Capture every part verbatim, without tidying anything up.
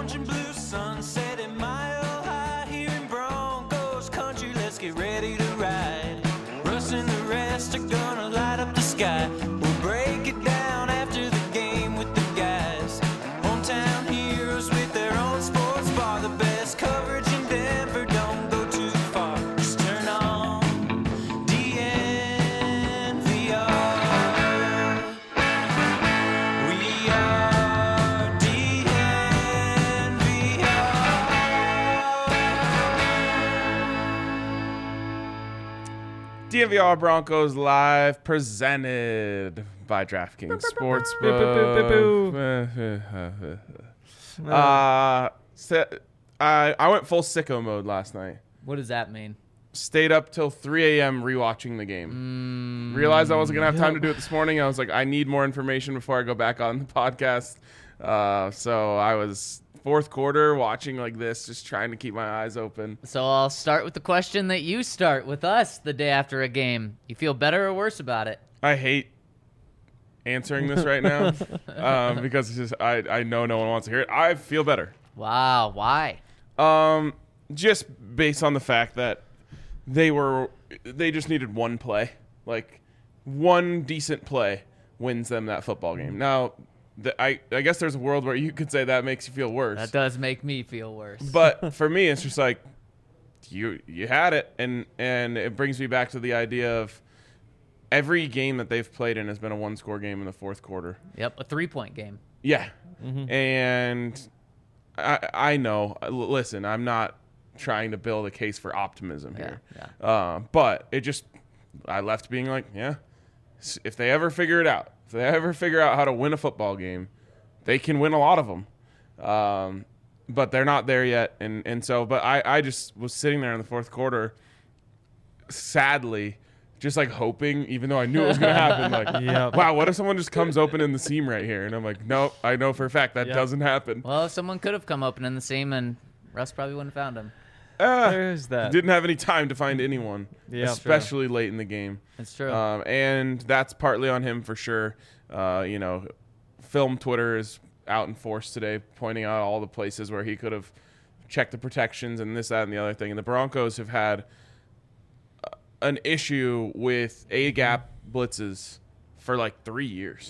Orange and blue sunset and mile high here in Broncos country. Let's get ready to ride. Russ and the rest are gonna light up the sky. We'll break it down after the game with the guys. Hometown heroes with their own sports bar. The best coverage in Denver. Don't go too far. Just turn on D N V R. We are D N V R. D N V R Broncos Live, presented by DraftKings Sportsbook. Uh, so, I I went full sicko mode last night. What does that mean? Stayed up till three a.m. rewatching the game. Mm, Realized I wasn't gonna have time to do it this morning. I was like, I need more information before I go back on the podcast. Uh, so I was fourth quarter watching like this, just trying to keep my eyes open. So I'll start with the question that you start with us the day after a game. You feel better or worse about it? I hate answering this right now um, because it's just, I, I know no one wants to hear it. I feel better. Wow, why? Um, just based on the fact that they were, they just needed one play, like one decent play wins them that football game. Now, the, I I guess there's a world where you could say that makes you feel worse. That does make me feel worse. But for me, it's just like you you had it, and and it brings me back to the idea of every game that they've played in has been a one-score game in the fourth quarter. Yep, a three-point game. Yeah, mm-hmm. and I I know. Listen, I'm not trying to build a case for optimism here, yeah, yeah. Uh, but it just I left being like, yeah, if they ever figure it out. If they ever figure out how to win a football game, they can win a lot of them. Um, but they're not there yet. And, and so, but I, I just was sitting there in the fourth quarter, sadly, just like hoping, even though I knew it was going to happen, like, yep. Wow, what if someone just comes open in the seam right here? And I'm like, no, I know for a fact that yep. doesn't happen. Well, someone could have come open in the seam and Russ probably wouldn't have found him. Uh, There's that. Didn't have any time to find anyone, yep, especially true. late in the game. That's true. Um, and that's partly on him for sure. Uh, you know, film Twitter is out in force today, pointing out all the places where he could have checked the protections and this, that, and the other thing. And the Broncos have had uh, an issue with A-gap blitzes for like three years.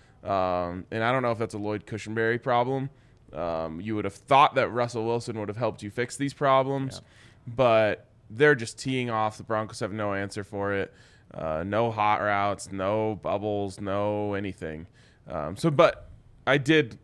Um, and I don't know if that's a Lloyd Cushenberry problem. Um, you would have thought that Russell Wilson would have helped you fix these problems, yeah. but they're just teeing off. The Broncos have no answer for it. Uh, no hot routes, no bubbles, no anything. Um, so, but I did,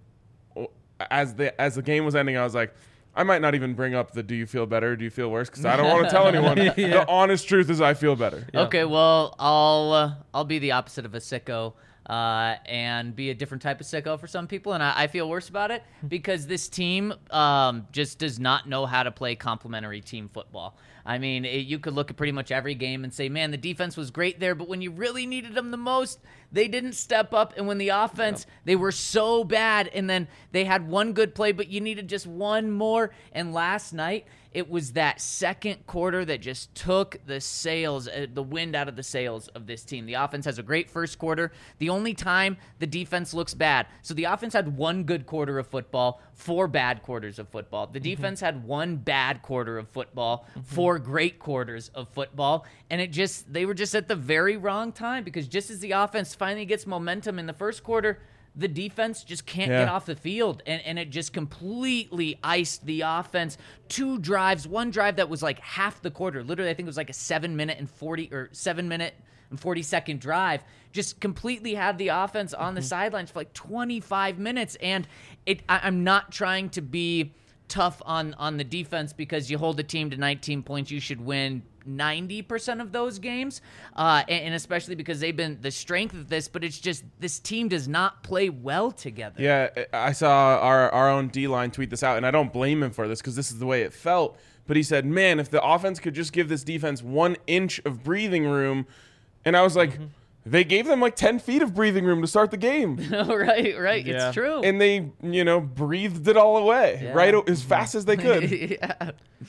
as the as the game was ending, I was like, I might not even bring up the do you feel better, do you feel worse, because I don't want to tell anyone. yeah. The honest truth is I feel better. Yeah. Okay, well, I'll uh, I'll be the opposite of a sicko. Uh, and be a different type of sicko for some people, and I, I feel worse about it because this team um, just does not know how to play complementary team football. I mean, it, you could look at pretty much every game and say, man, the defense was great there, but when you really needed them the most, they didn't step up, and when the offense, yep. they were so bad, and then they had one good play, but you needed just one more, and last night, it was that second quarter that just took the sails, uh, the wind out of the sails of this team. The offense has a great first quarter. The only time the defense looks bad. So the offense had one good quarter of football, four bad quarters of football. The defense mm-hmm. had one bad quarter of football, mm-hmm. four great quarters of football. And it just, they were just at the very wrong time because just as the offense finally gets momentum in the first quarter, the defense just can't yeah. get off the field, and, and it just completely iced the offense. Two drives, one drive that was like half the quarter. Literally, I think it was like a seven minute and forty or seven minute and forty second drive. Just completely had the offense on mm-hmm. the sidelines for like twenty-five minutes. And it, I, I'm not trying to be tough on on the defense because you hold a team to nineteen points, you should win ninety percent of those games, uh, and, and especially because they've been the strength of this, but it's just this team does not play well together. Yeah, I saw our, our own D-line tweet this out, and I don't blame him for this because this is the way it felt, but he said, man, if the offense could just give this defense one inch of breathing room, and I was like, mm-hmm. they gave them like ten feet of breathing room to start the game. right, right, yeah. It's true. And they, you know, breathed it all away, yeah. right, as fast as they could. yeah.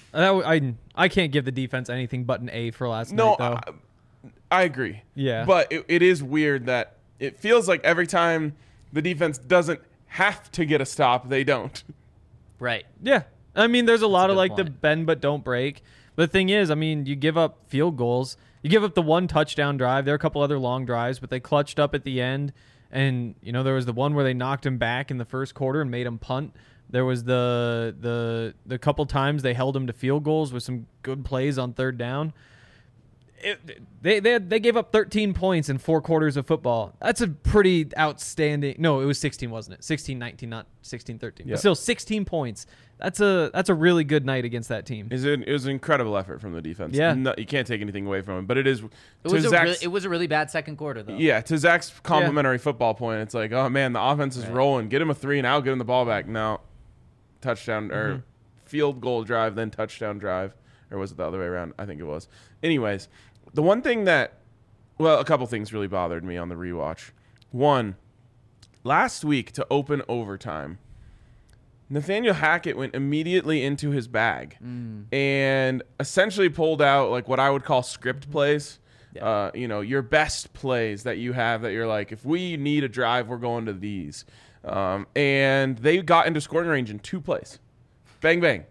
I, I can't give the defense anything but an A for last no, night, though. I, I agree. Yeah. But it, it is weird that it feels like every time the defense doesn't have to get a stop, they don't. Right. Yeah. I mean, there's a lot a of good like the point. bend but don't break. But the thing is, I mean, you give up field goals. You give up the one touchdown drive. There are a couple other long drives, but they clutched up at the end. And, you know, there was the one where they knocked him back in the first quarter and made him punt. There was the the the couple times they held him to field goals with some good plays on third down. It, they they they gave up thirteen points in four quarters of football. That's a pretty outstanding. No, it was sixteen, wasn't it? sixteen nineteen, not sixteen thirteen. Yep. But still sixteen points. That's a that's a really good night against that team. Is it, it was an incredible effort from the defense. Yeah. No, you can't take anything away from it, but it is. It to was, a Zach's- really, it was a really bad second quarter, though. Yeah, to Zach's complimentary football point, it's like, oh man, the offense is Right. rolling. Get him a three and out, get him the ball back. No, touchdown or Mm-hmm. field goal drive, then touchdown drive, or was it the other way around? I think it was. Anyways, the one thing that, well, a couple things really bothered me on the rewatch. One, last week to open overtime, Nathaniel Hackett went immediately into his bag and essentially pulled out like what I would call script plays. Uh, you know, your best plays that you have that you're like, if we need a drive, we're going to these. Um, and they got into scoring range in two plays. Bang, bang.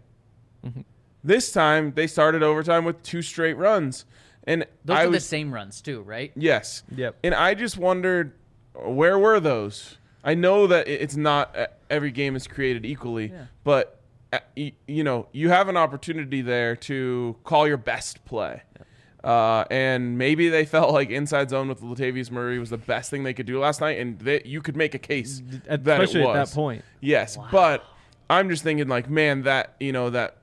This time they started overtime with two straight runs. And Those I are the was, same runs, too, right? yes. Yep. And I just wondered, where were those? I know that it- it's not uh, every game is created equally, Yeah. but uh, y- you know, you have an opportunity there to call your best play. Uh, and maybe they felt like inside zone with Latavius Murray was the best thing they could do last night, and they, you could make a case that Especially it at was. that point. Yes, but I'm just thinking like, man, that you know that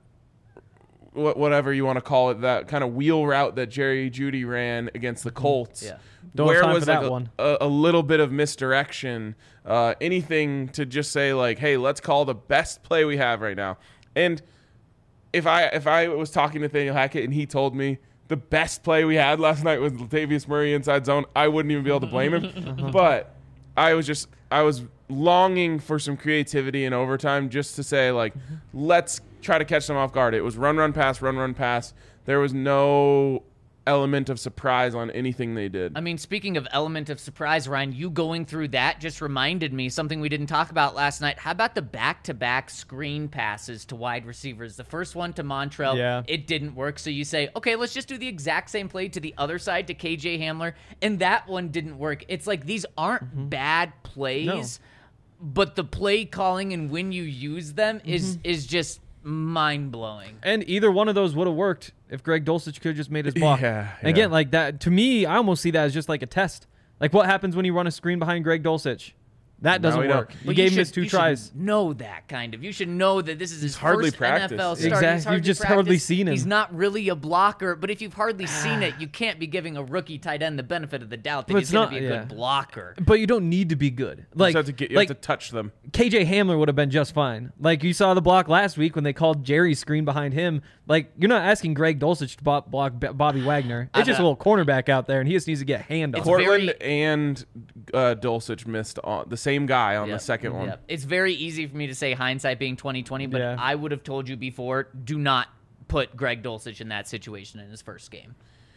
wh- whatever you want to call it, that kind of wheel route that Jerry Jeudy ran against the Colts. Yeah. Don't have where time was for like that a, one. A, a little bit of misdirection, uh, anything to just say like, hey, let's call the best play we have right now. And if I if I was talking to Nathaniel Hackett and he told me the best play we had last night was Latavius Murray inside zone, I wouldn't even be able to blame him. But I was just I was longing for some creativity in overtime just to say like, let's try to catch them off guard. It was run, run, pass, run, run, pass. There was no element of surprise on anything they did. I mean, speaking of element of surprise, Ryan, you going through that just reminded me something we didn't talk about last night. How about the back-to-back screen passes to wide receivers? The first one to Montrell, Yeah. it didn't work. So you say, okay, let's just do the exact same play to the other side to K J Hamler, and that one didn't work. It's like these aren't bad plays, but the play calling and when you use them is is just mind-blowing. And either one of those would have worked if Greg Dulcich could have just made his block. Yeah, And again, yeah. like that, to me, I almost see that as just like a test. Like what happens when you run a screen behind Greg Dulcich? That No, doesn't we don't. work. You Well, gave him should- his two you should tries. know that kind of. You should know that this is his hardly first N F L practiced. start. Exactly. He's You've just hardly practiced. seen him. He's not really a blocker, but if you've hardly seen it, you can't be giving a rookie tight end the benefit of the doubt that But he's it's going to not- be a yeah. good blocker. But you don't need to be good. Like, you have to get, you like have to touch them. K J Hamler would have been just fine. Like you saw the block last week when they called Jerry's screen behind him. Like you're not asking Greg Dulcich to bo- block B- Bobby Wagner. It's just a little cornerback out there, and he just needs to get a hand off. It's Portland very- and uh, Dulcich missed on the same guy on Yep. the second one. Yep. It's very easy for me to say hindsight being twenty twenty, but Yeah. I would have told you before, do not put Greg Dulcich in that situation in his first game.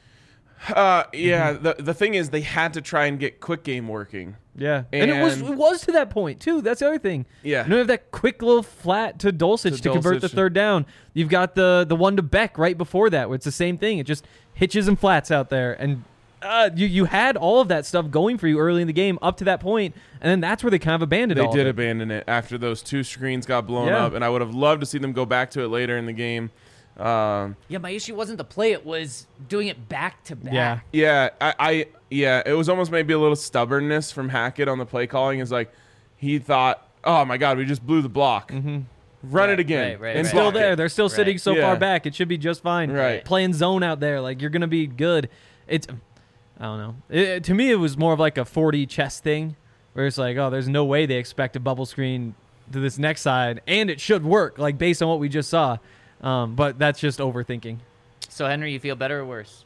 Uh, yeah. The the thing is, they had to try and get quick game working. Yeah, and, it was And- it was to that point too. That's the other thing. Yeah. you don't have that quick little flat to Dulcich to, To convert the Dulcich. third down. You've got the the one to Beck right before that, where it's the same thing. It just hitches and flats out there, and uh, you you had all of that stuff going for you early in the game up to that point, and then that's where they kind of abandoned. They all did of it. abandon it after those two screens got blown Yeah. up, and I would have loved to see them go back to it later in the game. Um, Yeah, my issue wasn't the play, it was doing it back to back. Yeah. yeah, I, I yeah, it was almost maybe a little stubbornness from Hackett on the play calling. Is like he thought, oh my god, we just blew the block. Mm-hmm. Run Right, it again. right, right, and It's right. still block there. it. They're still sitting Right. so Yeah. far back. It should be just fine. Right. Playing zone out there, like you're gonna be good. It's, I don't know. It, to me, it was more of like a forty chess thing, where it's like, oh, there's no way they expect a bubble screen to this next side, and it should work, like based on what we just saw. Um, but that's just overthinking. So, Henry, you feel better or worse?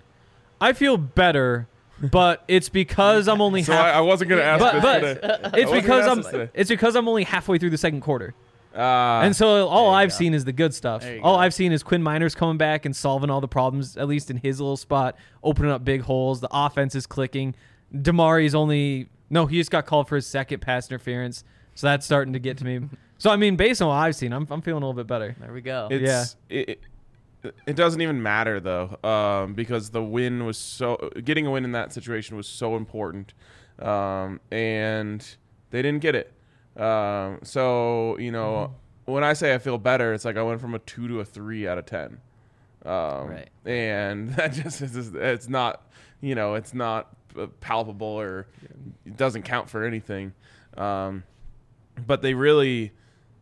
I feel better, but it's because I'm only So half. I, I wasn't gonna ask but this but today. it's wasn't because gonna I'm ask this today. it's because I'm only halfway through the second quarter. Uh, And so all you I've go. seen is the good stuff. There you All go. I've seen is Quinn Miners coming back and solving all the problems, at least in his little spot, opening up big holes. The offense is clicking. Damari's only no, he just got called for his second pass interference, so that's starting to get to me. So I mean, based on what I've seen, I'm I'm feeling a little bit better. There we go. It's, it, it, it doesn't even matter though, um, because the win was so getting a win in that situation was so important, um, and they didn't get it. Um, so you know, mm-hmm. when I say I feel better, it's like I went from a two to a three out of ten, um, right? And that just is it's not you know it's not palpable or it doesn't count for anything, um, but they really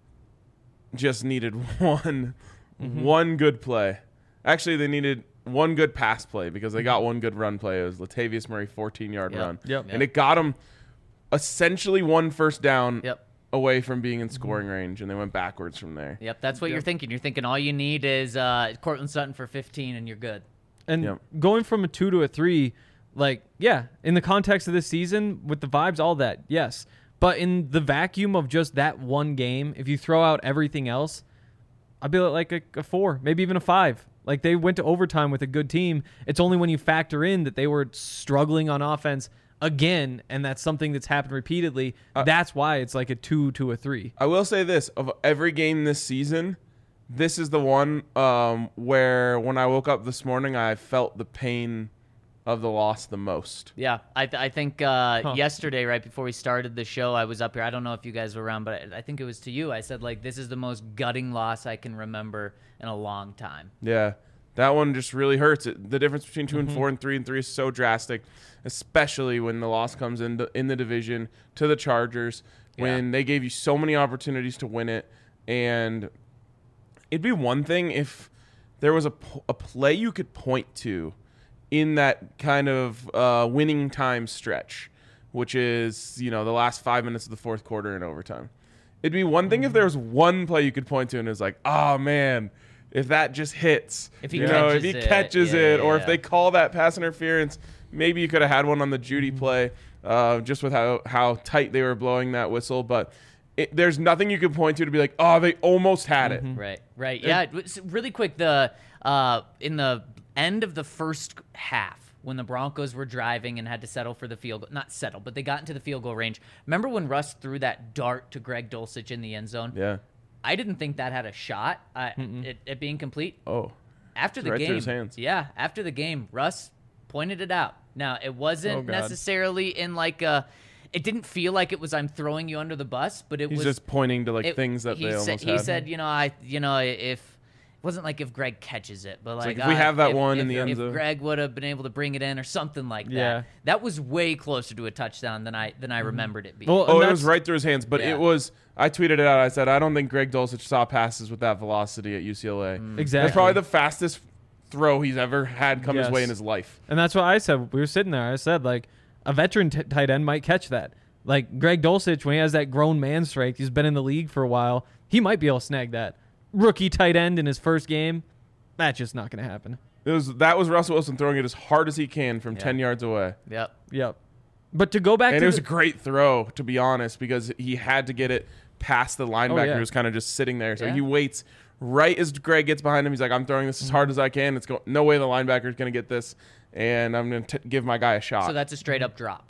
just needed one. Mm-hmm. One good play. Actually, they needed one good pass play because they got one good run play. It was Latavius Murray fourteen-yard yep. run. Yep. And it got them essentially one first down yep. away from being in scoring range, and they went backwards from there. Yep, that's what yep. you're thinking. You're thinking all you need is uh, Cortland Sutton for fifteen, and you're good. And yep. going from a two to a three, like, yeah, in the context of this season, with the vibes, all that, yes. But in the vacuum of just that one game, if you throw out everything else, I'd be like a, a four, maybe even a five. Like, they went to overtime with a good team. It's only when you factor in that they were struggling on offense again, and that's something that's happened repeatedly. Uh, that's why it's like a two to a three. I will say this. Of every game this season, this is the one um, where when I woke up this morning, I felt the pain of the loss the most. Yeah, I th- I think uh, huh. yesterday, right before we started the show, I was up here. I don't know if you guys were around, but I, I think it was to you. I said, like, this is the most gutting loss I can remember in a long time. Yeah, that one just really hurts. It, the difference between two mm-hmm. and four and three and three is so drastic, especially when the loss comes in the, in the division to the Chargers, when yeah. they gave you so many opportunities to win it. And it'd be one thing if there was a, a play you could point to in that kind of uh, winning time stretch, which is, you know, the last five minutes of the fourth quarter in overtime. It'd be one thing if there was one play you could point to and it was like, oh, man, if that just hits, if he you know, if he it, catches yeah, it, yeah, or yeah. if they call that pass interference, maybe you could have had one on the Judy play, uh, just with how, how tight they were blowing that whistle. But it, there's nothing you could point to to be like, oh, they almost had it. Mm-hmm. Right, right. Yeah, it was really quick, the uh, in the end of the first half, when the Broncos were driving and had to settle for the field goal, not settle, but they got into the field goal range. Remember when Russ threw that dart to Greg Dulcich in the end zone? Yeah. I didn't think that had a shot uh, at, at being complete. Oh. After the right game, through his hands. yeah, after the game, Russ pointed it out. Now, it wasn't Oh, God. necessarily in like a, it didn't feel like it was I'm throwing you under the bus, but it He's was just pointing to like it, things that he they said, almost He had. said, you know, I, you know, if it wasn't like if Greg catches it, but like, like if we uh, have that if, one if, in the end if zone. Greg would have been able to bring it in or something like that. Yeah. That was way closer to a touchdown than I than I remembered it being. Well, Oh, And it was that's- right through his hands, but Yeah. it was. I tweeted it out. I said, I don't think Greg Dulcich saw passes with that velocity at U C L A. Exactly. That's probably the fastest throw he's ever had come his Yes. way in his life. And that's what I said. We were sitting there. I said, like, a veteran t- tight end might catch that. Like, Greg Dulcich, when he has that grown man strength, he's been in the league for a while, he might be able to snag that. Rookie tight end in his first game, that's just not going to happen. It was that was Russell Wilson throwing it as hard as he can from Yeah. ten yards away. Yep. Yep. But to go back And to it was the- a great throw, to be honest, because he had to get it past the linebacker yeah. who was kind of just sitting there. So Yeah. he waits right as Greg gets behind him. He's like, I'm throwing this as hard as I can. It's go- no way the linebacker is going to get this, and I'm going to give my guy a shot. So that's a straight up drop.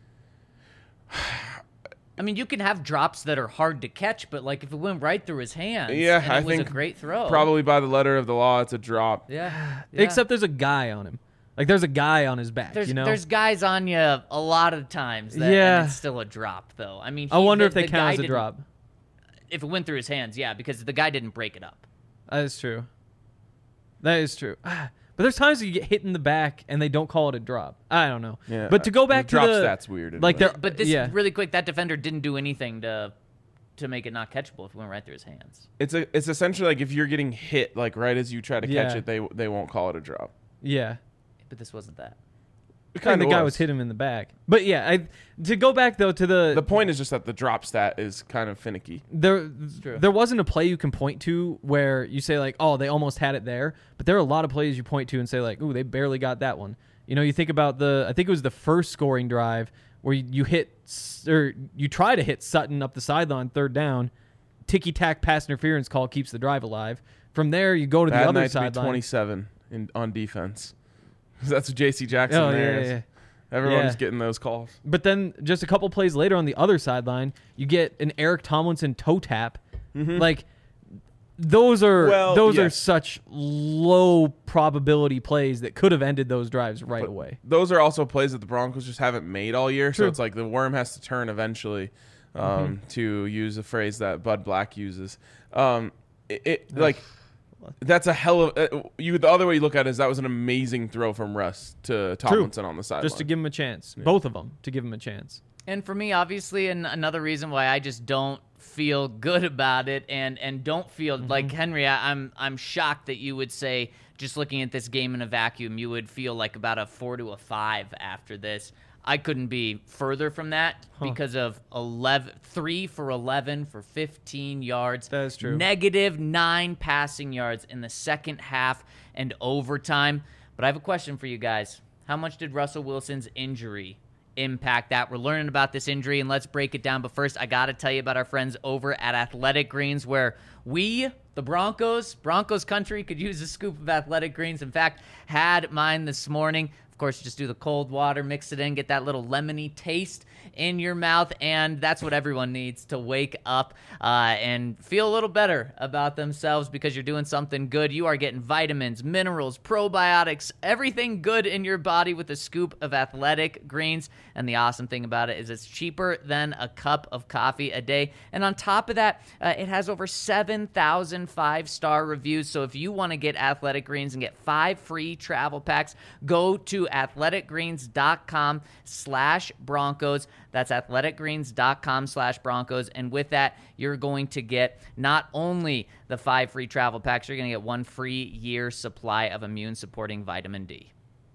I mean, you can have drops that are hard to catch, but like if it went right through his hands, yeah, and it I was think a great throw. probably by the letter of the law, it's a drop. Yeah. yeah. Except there's a guy on him. Like, there's a guy on his back, There's, you know? there's guys on you a lot of times that Yeah. and it's still a drop, though. I mean, I he- wonder the- if they the count guy as a didn't- drop. If it went through his hands, yeah, because the guy didn't break it up. That is true. That is true. But there's times that you get hit in the back and they don't call it a drop. I don't know. Yeah, but to go back the to drop the stat's weird. like anyway. there- But this yeah. really quick, that defender didn't do anything to to make it not catchable if it went right through his hands. it's a it's essentially like if you're getting hit like right as you try to catch Yeah. it, they they won't call it a drop. Yeah. But this wasn't that. It And kinda the guy was hit him in the back. But yeah, I, to go back though to the The point is just that the drop stat is kind of finicky. there true. there wasn't a play you can point to where you say like, oh, they almost had it there. But there are a lot of plays you point to and say like, ooh, they barely got that one. You know, you think about the I think it was the first scoring drive where you, you hit s- or you try to hit Sutton up the sideline third down, ticky tack pass interference call keeps the drive alive. From there you go to Bad the other night to be sideline. twenty-seven in on defense. That's what J C Jackson Oh, there yeah, is. yeah, yeah. Everyone's Yeah. getting those calls. But then just a couple plays later on the other sideline, you get an Eric Tomlinson toe tap Like those are Well, those are yes. such low probability plays that could have ended those drives right But away. Those are also plays that the Broncos just haven't made all year. So True. it's like the worm has to turn eventually, um, Mm-hmm. to use a phrase that Bud Black uses. Um, it, it like that's a hell of uh, you. The other way you look at it is that was an amazing throw from Russ to Tomlinson on the sideline. Just to give him a chance. Both of them to give him a chance. And for me, obviously, and another reason why I just don't feel good about it, and and don't feel like Henry, I, I'm I'm shocked that you would say, just looking at this game in a vacuum, you would feel like about a four to a five after this. I couldn't be further from that because of eleven, three for eleven for fifteen yards. That is true. Negative nine passing yards in the second half and overtime. But I have a question for you guys. How much did Russell Wilson's injury impact that? We're learning about this injury, and let's break it down. But first, I got to tell you about our friends over at Athletic Greens, where we, the Broncos, Broncos country, could use a scoop of Athletic Greens. In fact, had mine this morning. Of course, just do the cold water, mix it in, get that little lemony taste in your mouth, and that's what everyone needs to wake up uh, and feel a little better about themselves because you're doing something good. You are getting vitamins, minerals, probiotics, everything good in your body with a scoop of Athletic Greens, and the awesome thing about it is it's cheaper than a cup of coffee a day, and on top of that, uh, it has over seven thousand five-star reviews, so if you want to get Athletic Greens and get five free travel packs, go to athleticgreens.com slash Broncos. That's athleticgreens.com slash Broncos. And with that, you're going to get not only the five free travel packs, you're going to get one free year supply of immune supporting vitamin D.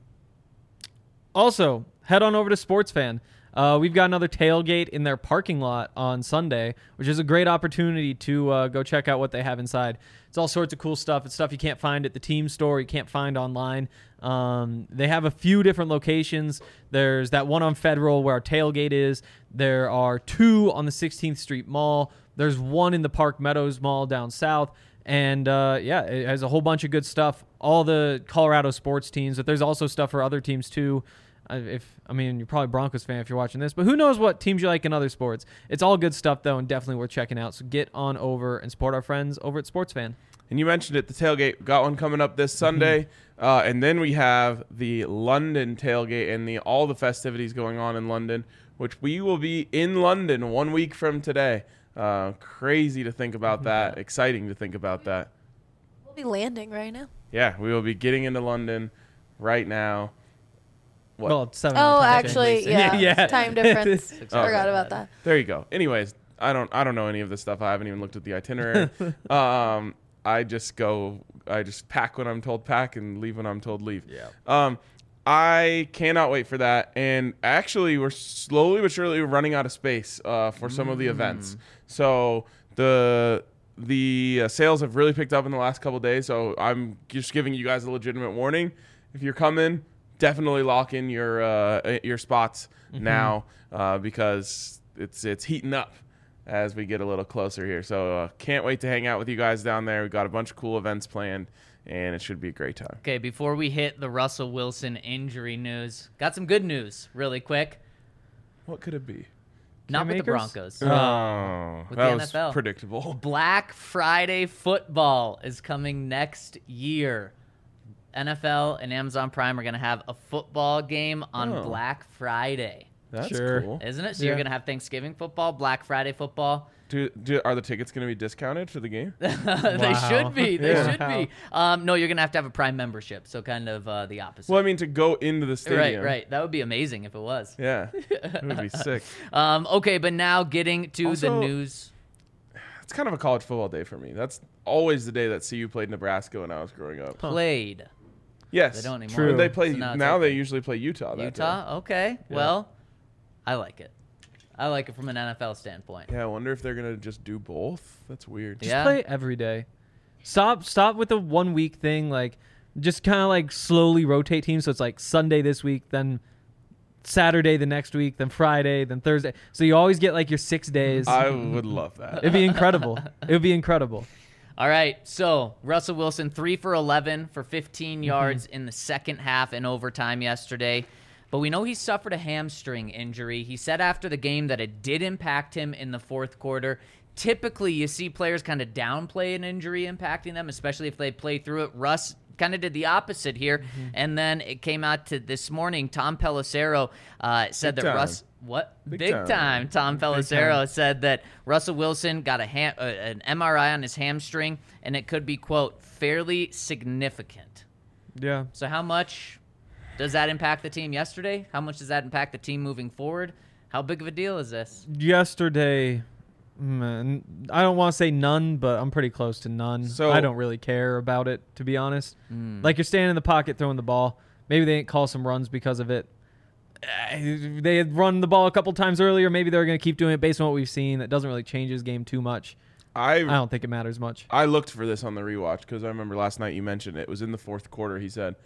Also, head on over to SportsFan. Uh, we've got another tailgate in their parking lot on Sunday, which is a great opportunity to uh, go check out what they have inside. It's all sorts of cool stuff. It's stuff you can't find at the team store, you can't find online. Um, they have a few different locations. There's that one on Federal where our tailgate is. There are two on the sixteenth Street Mall. There's one in the Park Meadows Mall down south. And, uh, yeah, it has a whole bunch of good stuff. All the Colorado sports teams, but there's also stuff for other teams, too. Uh, if I mean, you're probably a Broncos fan if you're watching this, but who knows what teams you like in other sports. It's all good stuff, though, and definitely worth checking out. So get on over and support our friends over at SportsFan. And you mentioned it, the tailgate. Got one coming up this Sunday. Uh, and then we have the London tailgate and the all the festivities going on in London, which we will be in London one week from today. Uh, crazy to think about that. Exciting to think about that. We'll be landing right now. Yeah, we will be getting into London right now. What? Well, it's seven Oh, hour time actually, change. yeah. yeah. Time difference. Okay. Forgot about that. There you go. Anyways, I don't I don't know any of this stuff. I haven't even looked at the itinerary. um, I just go. I just pack when I'm told pack and leave when I'm told leave. Yeah. Um, I cannot wait for that. And actually, we're slowly but surely running out of space uh, for some of the events. So the the uh, sales have really picked up in the last couple of days. So I'm just giving you guys a legitimate warning. If you're coming, definitely lock in your uh, your spots now uh, because it's it's heating up as we get a little closer here. So uh, can't wait to hang out with you guys down there. We've got a bunch of cool events planned, and it should be a great time. Okay, before we hit the Russell Wilson injury news, got some good news really quick. What could it be? Not with the Makers? Broncos. Oh, With that the was N F L. predictable. Black Friday football is coming next year. N F L and Amazon Prime are going to have a football game on Oh. Black Friday. That's Sure. cool. Isn't it? So Yeah. you're going to have Thanksgiving football, Black Friday football. Do, do are the tickets going to be discounted for the game? they Wow. should be. They Yeah. should be. Um, no, you're going to have to have a Prime membership, so kind of uh, the opposite. Well, I mean to go into the right, stadium. right. That would be amazing if it was. Yeah, it would be sick. Um, okay, but now getting to Also- the news. It's kind of a college football day for me. That's always the day that C U played Nebraska when I was growing up. Played. Yes, They don't anymore. True. They play So now now. it's They open. usually play Utah. That Utah? Okay. Well, I like it. I like it from an N F L standpoint. Day. Yeah, I wonder if they're gonna just do both. That's weird. Just Yeah. play every day. Stop stop with the one week thing. Like, just kind of like slowly rotate teams. So it's like Sunday this week, then Saturday the next week, then Friday, then Thursday. So you always get like your six days. I would love that. It'd be incredible. It would be incredible. All right, so Russell Wilson, three for eleven for fifteen yards in the second half and overtime yesterday. But we know he suffered a hamstring injury. He said after the game that it did impact him in the fourth quarter. typically you see players kind of downplay an injury impacting them, especially if they play through it. Russ kind of did the opposite here, mm-hmm. and then it came out to this morning. Tom Pelissero uh, said Big that time. Russ, what Big big, time. time. Tom Pelissero said that Russell Wilson got a ham, uh, an M R I on his hamstring, and it could be quote fairly significant. Yeah. So how much does that impact the team yesterday? How much does that impact the team moving forward? How big of a deal is this? Yesterday, man, I don't want to say none, but I'm pretty close to none. So- I don't really care about it, to be honest. Mm. Like, you're standing in the pocket throwing the ball. Maybe they didn't call some runs because of it. Uh, They had run the ball a couple times earlier. Maybe they're going to keep doing it based on what we've seen. That doesn't really change his game too much. I I don't think it matters much. I looked for this on the rewatch because I remember last night you mentioned it. It was in the fourth quarter. He said,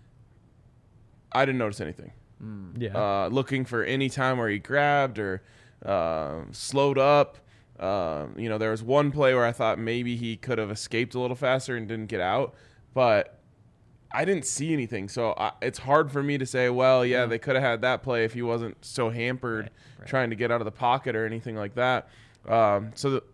I didn't notice anything. Yeah. Uh, looking for any time where he grabbed or uh, slowed up. Uh, you know, there was one play where I thought maybe he could have escaped a little faster and didn't get out, but I didn't see anything. So I, it's hard for me to say, well, yeah, they could have had that play if he wasn't so hampered Right, right. trying to get out of the pocket or anything like that. Um, so the,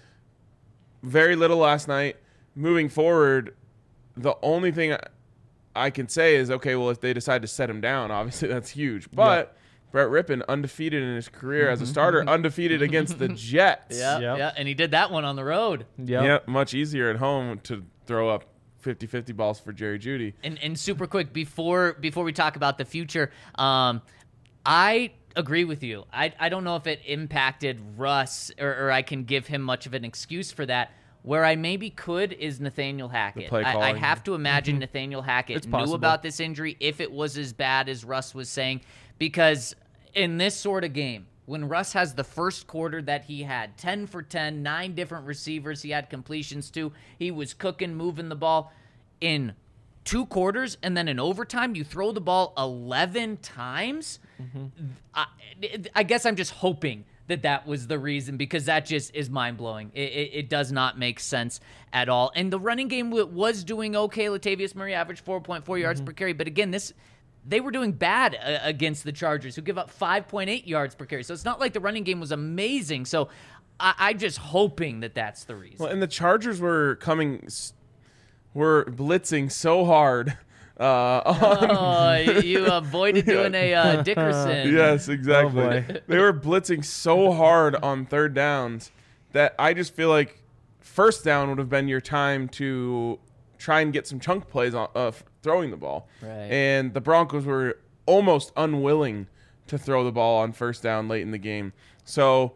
very little last night. Moving forward, the only thing I, I can say is, okay, well, if they decide to set him down, obviously that's huge. But Brett Rippon, undefeated in his career as a starter, undefeated against the Jets. Yeah, Yep. yeah, and he did that one on the road. Yep. Yeah, much easier at home to throw up fifty-fifty balls for Jerry Jeudy. And and super quick before before we talk about the future, um, I agree with you. I I don't know if it impacted Russ or, or I can give him much of an excuse for that. Where I maybe could is Nathaniel Hackett. play I, I calling. have to imagine Nathaniel Hackett It's knew possible. about this injury if it was as bad as Russ was saying, because in this sort of game, when Russ has the first quarter that he had, ten for ten, nine different receivers he had completions to, he was cooking, moving the ball in two quarters, and then in overtime, you throw the ball eleven times. I, I guess I'm just hoping that that was the reason, because that just is mind-blowing. It, it, it does not make sense at all. And the running game w- was doing okay. Latavius Murray averaged four point four yards per carry. But again, this they were doing bad uh, against the Chargers, who give up five point eight yards per carry. So it's not like the running game was amazing. So I, I'm just hoping that that's the reason. Well, and the Chargers were coming, s- were blitzing so hard. Uh, on, oh, you avoided doing a uh, Dickerson. yes, exactly. Oh, boy. They were blitzing so hard on third downs that I just feel like first down would have been your time to try and get some chunk plays on uh, f- throwing the ball. Right. And the Broncos were almost unwilling to throw the ball on first down late in the game. So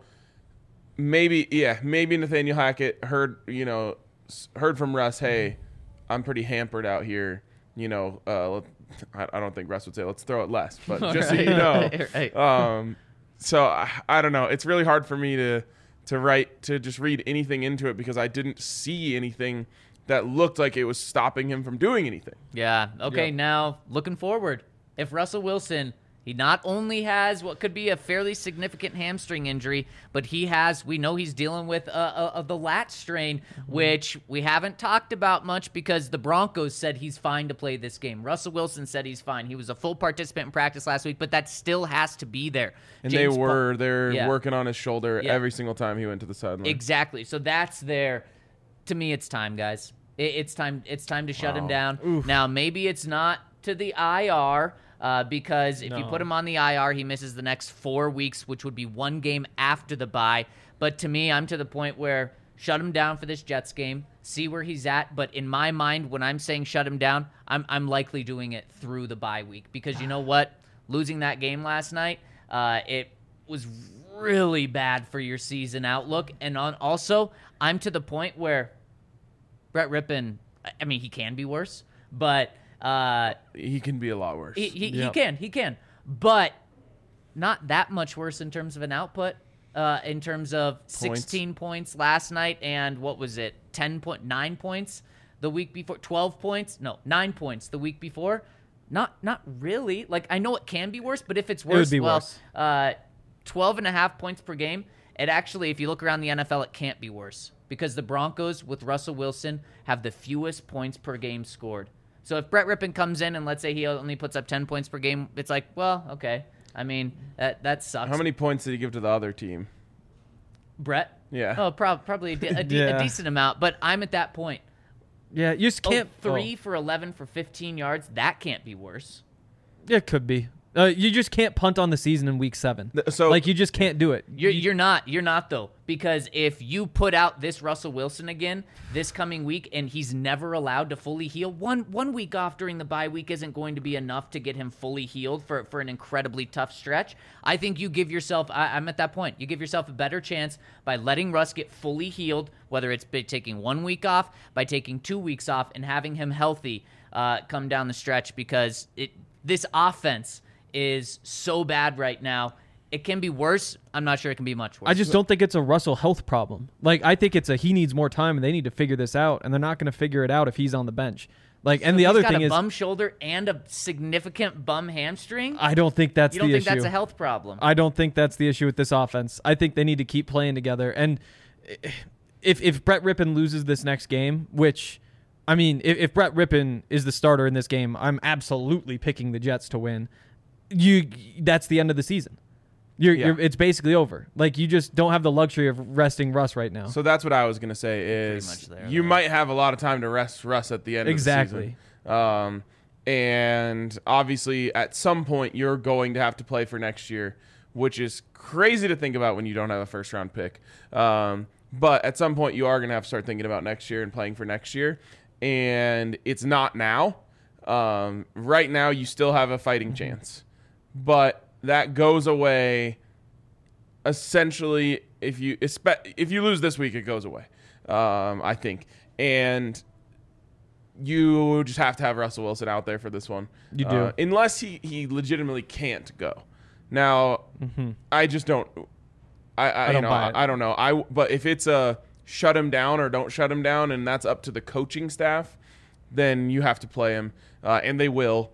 maybe, yeah, maybe Nathaniel Hackett heard, you know, s- heard from Russ, hey, I'm pretty hampered out here. You know, uh, let- I, I don't think Russ would say, let's throw it less, but just so you know. Right, right. Um, so I, I don't know. It's really hard for me to to write to just read anything into it because I didn't see anything that looked like it was stopping him from doing anything. Yeah. Okay. Yeah. Now, looking forward, if Russell Wilson, he not only has what could be a fairly significant hamstring injury, but he has, we know he's dealing with uh, uh, uh, the lat strain, which we haven't talked about much because the Broncos said he's fine to play this game. Russell Wilson said he's fine. He was a full participant in practice last week, but that still has to be there. And James they Pa- were they're Yeah. working on his shoulder Yeah. every single time he went to the sideline. Exactly. So that's there. To me, it's time, guys. It, it's time. It's time to shut him down. Now, maybe it's not to the I R uh, because if you No. put him on the I R, he misses the next four weeks, which would be one game after the bye. But to me, I'm to the point where shut him down for this Jets game. See where he's at. But in my mind, when I'm saying shut him down, I'm I'm likely doing it through the bye week because you know what? Losing that game last night, uh, it was really bad for your season outlook. And on also, I'm to the point where Brett Rippon, I mean, he can be worse, but uh, He can be a lot worse. he, he, he Yep. can, he can, but not that much worse in terms of an output. Uh, in terms of sixteen points last night, and what was it, ten point nine points the week before, twelve points, no, nine points the week before. Not, not really. Like I know it can be worse, but if it's would worse, be well, worse. uh, twelve and a half points per game. It actually, if you look around the N F L, it can't be worse because the Broncos with Russell Wilson have the fewest points per game scored. So if Brett Rippon comes in and let's say he only puts up ten points per game, it's like, well, okay. I mean, that that sucks. How many points did he give to the other team? Brett? Yeah. Oh, prob- probably a, de- a, de- Yeah. a decent amount. But I'm at that point. Yeah, you just Oh, can't. three oh. for eleven for fifteen yards. That can't be worse. Yeah, it could be. Uh, you just can't punt on the season in week seven. Th- so- like you just can't do it. You're, you're not. You're not, though. Because if you put out this Russell Wilson again this coming week and he's never allowed to fully heal, one one week off during the bye week isn't going to be enough to get him fully healed for, for an incredibly tough stretch. I think you give yourself, I, I'm at that point, you give yourself a better chance by letting Russ get fully healed, whether it's by taking one week off, by taking two weeks off, and having him healthy uh, come down the stretch, because it this offense is so bad right now. It can be worse. I'm not sure it can be much worse. I just don't think it's a Russell health problem. Like I think it's a he needs more time and they need to figure this out, and they're not going to figure it out if he's on the bench. Like, and So the if other he's got thing a is, bum shoulder and a significant bum hamstring. I don't think that's you don't the think issue. that's a health problem? I don't think that's the issue with this offense. I think they need to keep playing together. And if if Brett Rippon loses this next game, which, I mean, if, if Brett Rippon is the starter in this game, I'm absolutely picking the Jets to win. You, that's the end of the season. You're, Yeah. you're, it's basically over. Like you just don't have the luxury of resting Russ right now. So that's what I was gonna say is much there, you though. might have a lot of time to rest Russ at the end Exactly. of the season. Um, and obviously at some point you're going to have to play for next year, which is crazy to think about when you don't have a first round pick. Um, but at some point you are gonna have to start thinking about next year and playing for next year, and it's not now. Um, right now you still have a fighting chance, but that goes away essentially if you if you lose this week, it goes away. Um, I think, and you just have to have Russell Wilson out there for this one. You do. uh, unless he he legitimately can't go. Now, I just don't. I I, I don't you know, buy it. I, I don't know. I but if it's a shut him down or don't shut him down, and that's up to the coaching staff, then you have to play him, uh, and they will.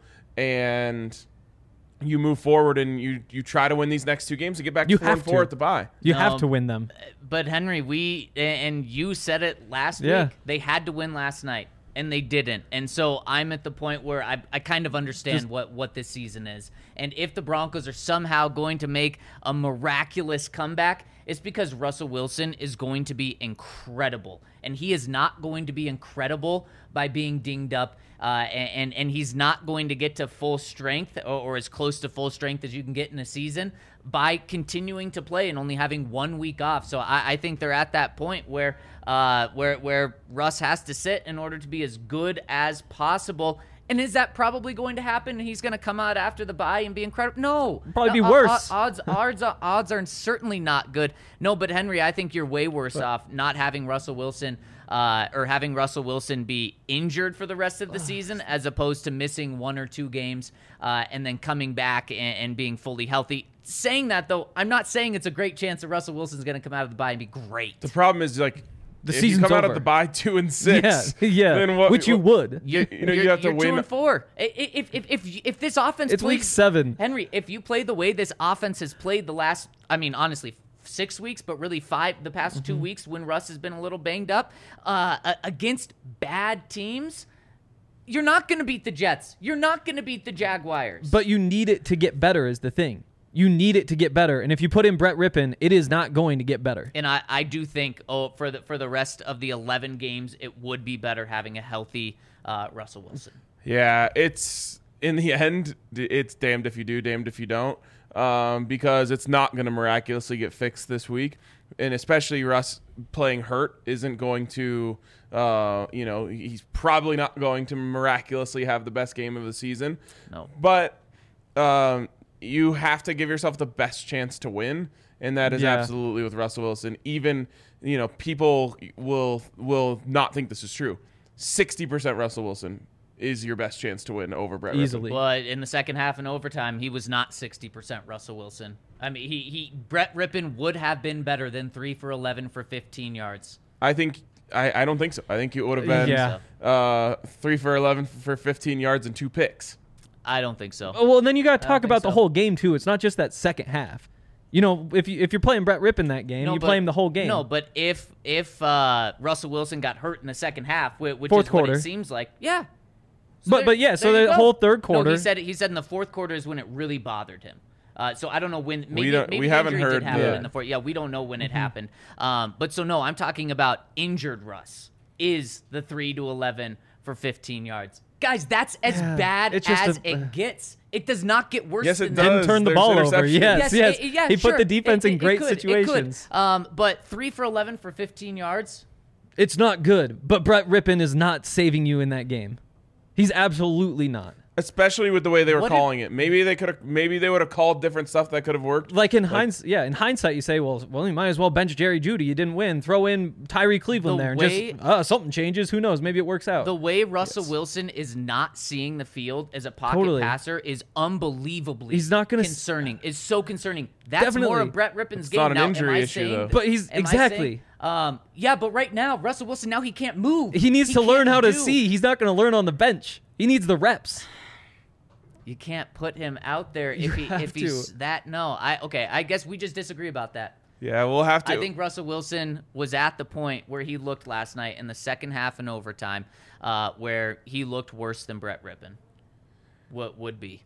And you move forward and you you try to win these next two games to get back You to four and have four to. at the bye. You No, have to win them. But Henry, we and you said it last Yeah. week. They had to win last night, and they didn't. And so I'm at the point where I I kind of understand Just- what what this season is. And if the Broncos are somehow going to make a miraculous comeback, it's because Russell Wilson is going to be incredible, and he is not going to be incredible by being dinged up. Uh, and and he's not going to get to full strength or, or as close to full strength as you can get in a season by continuing to play and only having one week off. So I, I think they're at that point where uh, where where Russ has to sit in order to be as good as possible. And is that probably going to happen? He's going to come out after the bye and be incredible? No. Probably be Uh, worse. uh, odds, odds, odds are certainly not good. No, but Henry, I think you're way worse off not having Russell Wilson uh, or having Russell Wilson be injured for the rest of the season as opposed to missing one or two games uh, and then coming back and, and being fully healthy. Saying that, though, I'm not saying it's a great chance that Russell Wilson's going to come out of the bye and be great. The problem is like The if season's you come out over. at the bye two and six, Yeah, yeah. then what, Which you what- would. You're, you know, you you're- have to you're win. two and four. I- I- If if if if, if this offense It's plays, week seven. Henry, if you play the way this offense has played the last, I mean, honestly, six weeks, but really five the past Mm-hmm. two weeks when Russ has been a little banged up uh, a- against bad teams, you're not going to beat the Jets. You're not going to beat the Jaguars. But you need it to get better is the thing. You need it to get better. And if you put in Brett Rippon, it is not going to get better. And I, I do think oh for the for the rest of the eleven games, it would be better having a healthy uh, Russell Wilson. Yeah, it's in the end, it's damned if you do, damned if you don't, um, because it's not going to miraculously get fixed this week, and especially Russ playing hurt isn't going to, uh, you know, he's probably not going to miraculously have the best game of the season. No. But um, you have to give yourself the best chance to win, and that is Yeah. absolutely with Russell Wilson. Even, you know, people will will not think this is true. sixty percent Russell Wilson is your best chance to win over Brett Rippon. Easily. But in the second half and overtime, he was not sixty percent Russell Wilson. I mean, he he Brett Rippon would have been better than three for eleven for fifteen yards. I think I, I don't think so. I think it would have been Yeah. uh, three for eleven for fifteen yards and two picks. I don't think so. Oh, well, and then you got to I don't talk think about the so. whole game too. It's not just that second half. You know, if you if you're playing Brett Rippon that game, No, you but- play him the whole game. No, but if if uh, Russell Wilson got hurt in the second half, whi- which Fourth is what quarter. it seems like, yeah. So But- there- but yeah, so there you the go. whole third No, quarter- he said he said in the fourth quarter is when it really bothered him. Uh, so I don't know when. Maybe, don't- maybe we the haven't injury heard did happen the- in the fourth. Yeah, we don't know when it happened. Um, but so no, I'm talking about injured Russ is the three to eleven for fifteen yards. Guys, that's as Yeah, bad it's just as a- it gets. It does not get worse Yes, it than does. that. Didn't turn the There's ball over. interceptions. Yes, yes. it- yeah, he sure. put the defense It- in it- it great could, it could. situations. Um, but three for eleven for fifteen yards. It's not good, but Brett Rippon is not saving you in that game. He's absolutely not. Especially with the way they were What did- calling it. Maybe they could have. Maybe they would have called different stuff that could have worked. Like in hindsight, yeah, in hindsight, you say, well, well, you might as well bench Jerry Jeudy. You didn't win. Throw in Tyree Cleveland The there, and way- just uh, something changes. Who knows? Maybe it works out. The way Russell Wilson is not seeing the field as a pocket Totally. passer is unbelievably He's not gonna s- concerning. Is so concerning. That's more Definitely. of Brett Rippon's It's game. not an now, injury am I issue, saying though. that- But he's- am I exactly. saying- um, yeah, but right now Russell Wilson now he can't move. he needs to learn can't how to do- see. He's not going to learn on the bench. He needs the reps. You can't put him out there if he have if he's to. that. No, I okay. I guess we just disagree about that. Yeah, we'll have to. I think Russell Wilson was at the point where he looked last night in the second half and overtime, uh, where he looked worse than Brett Rippon. What would be?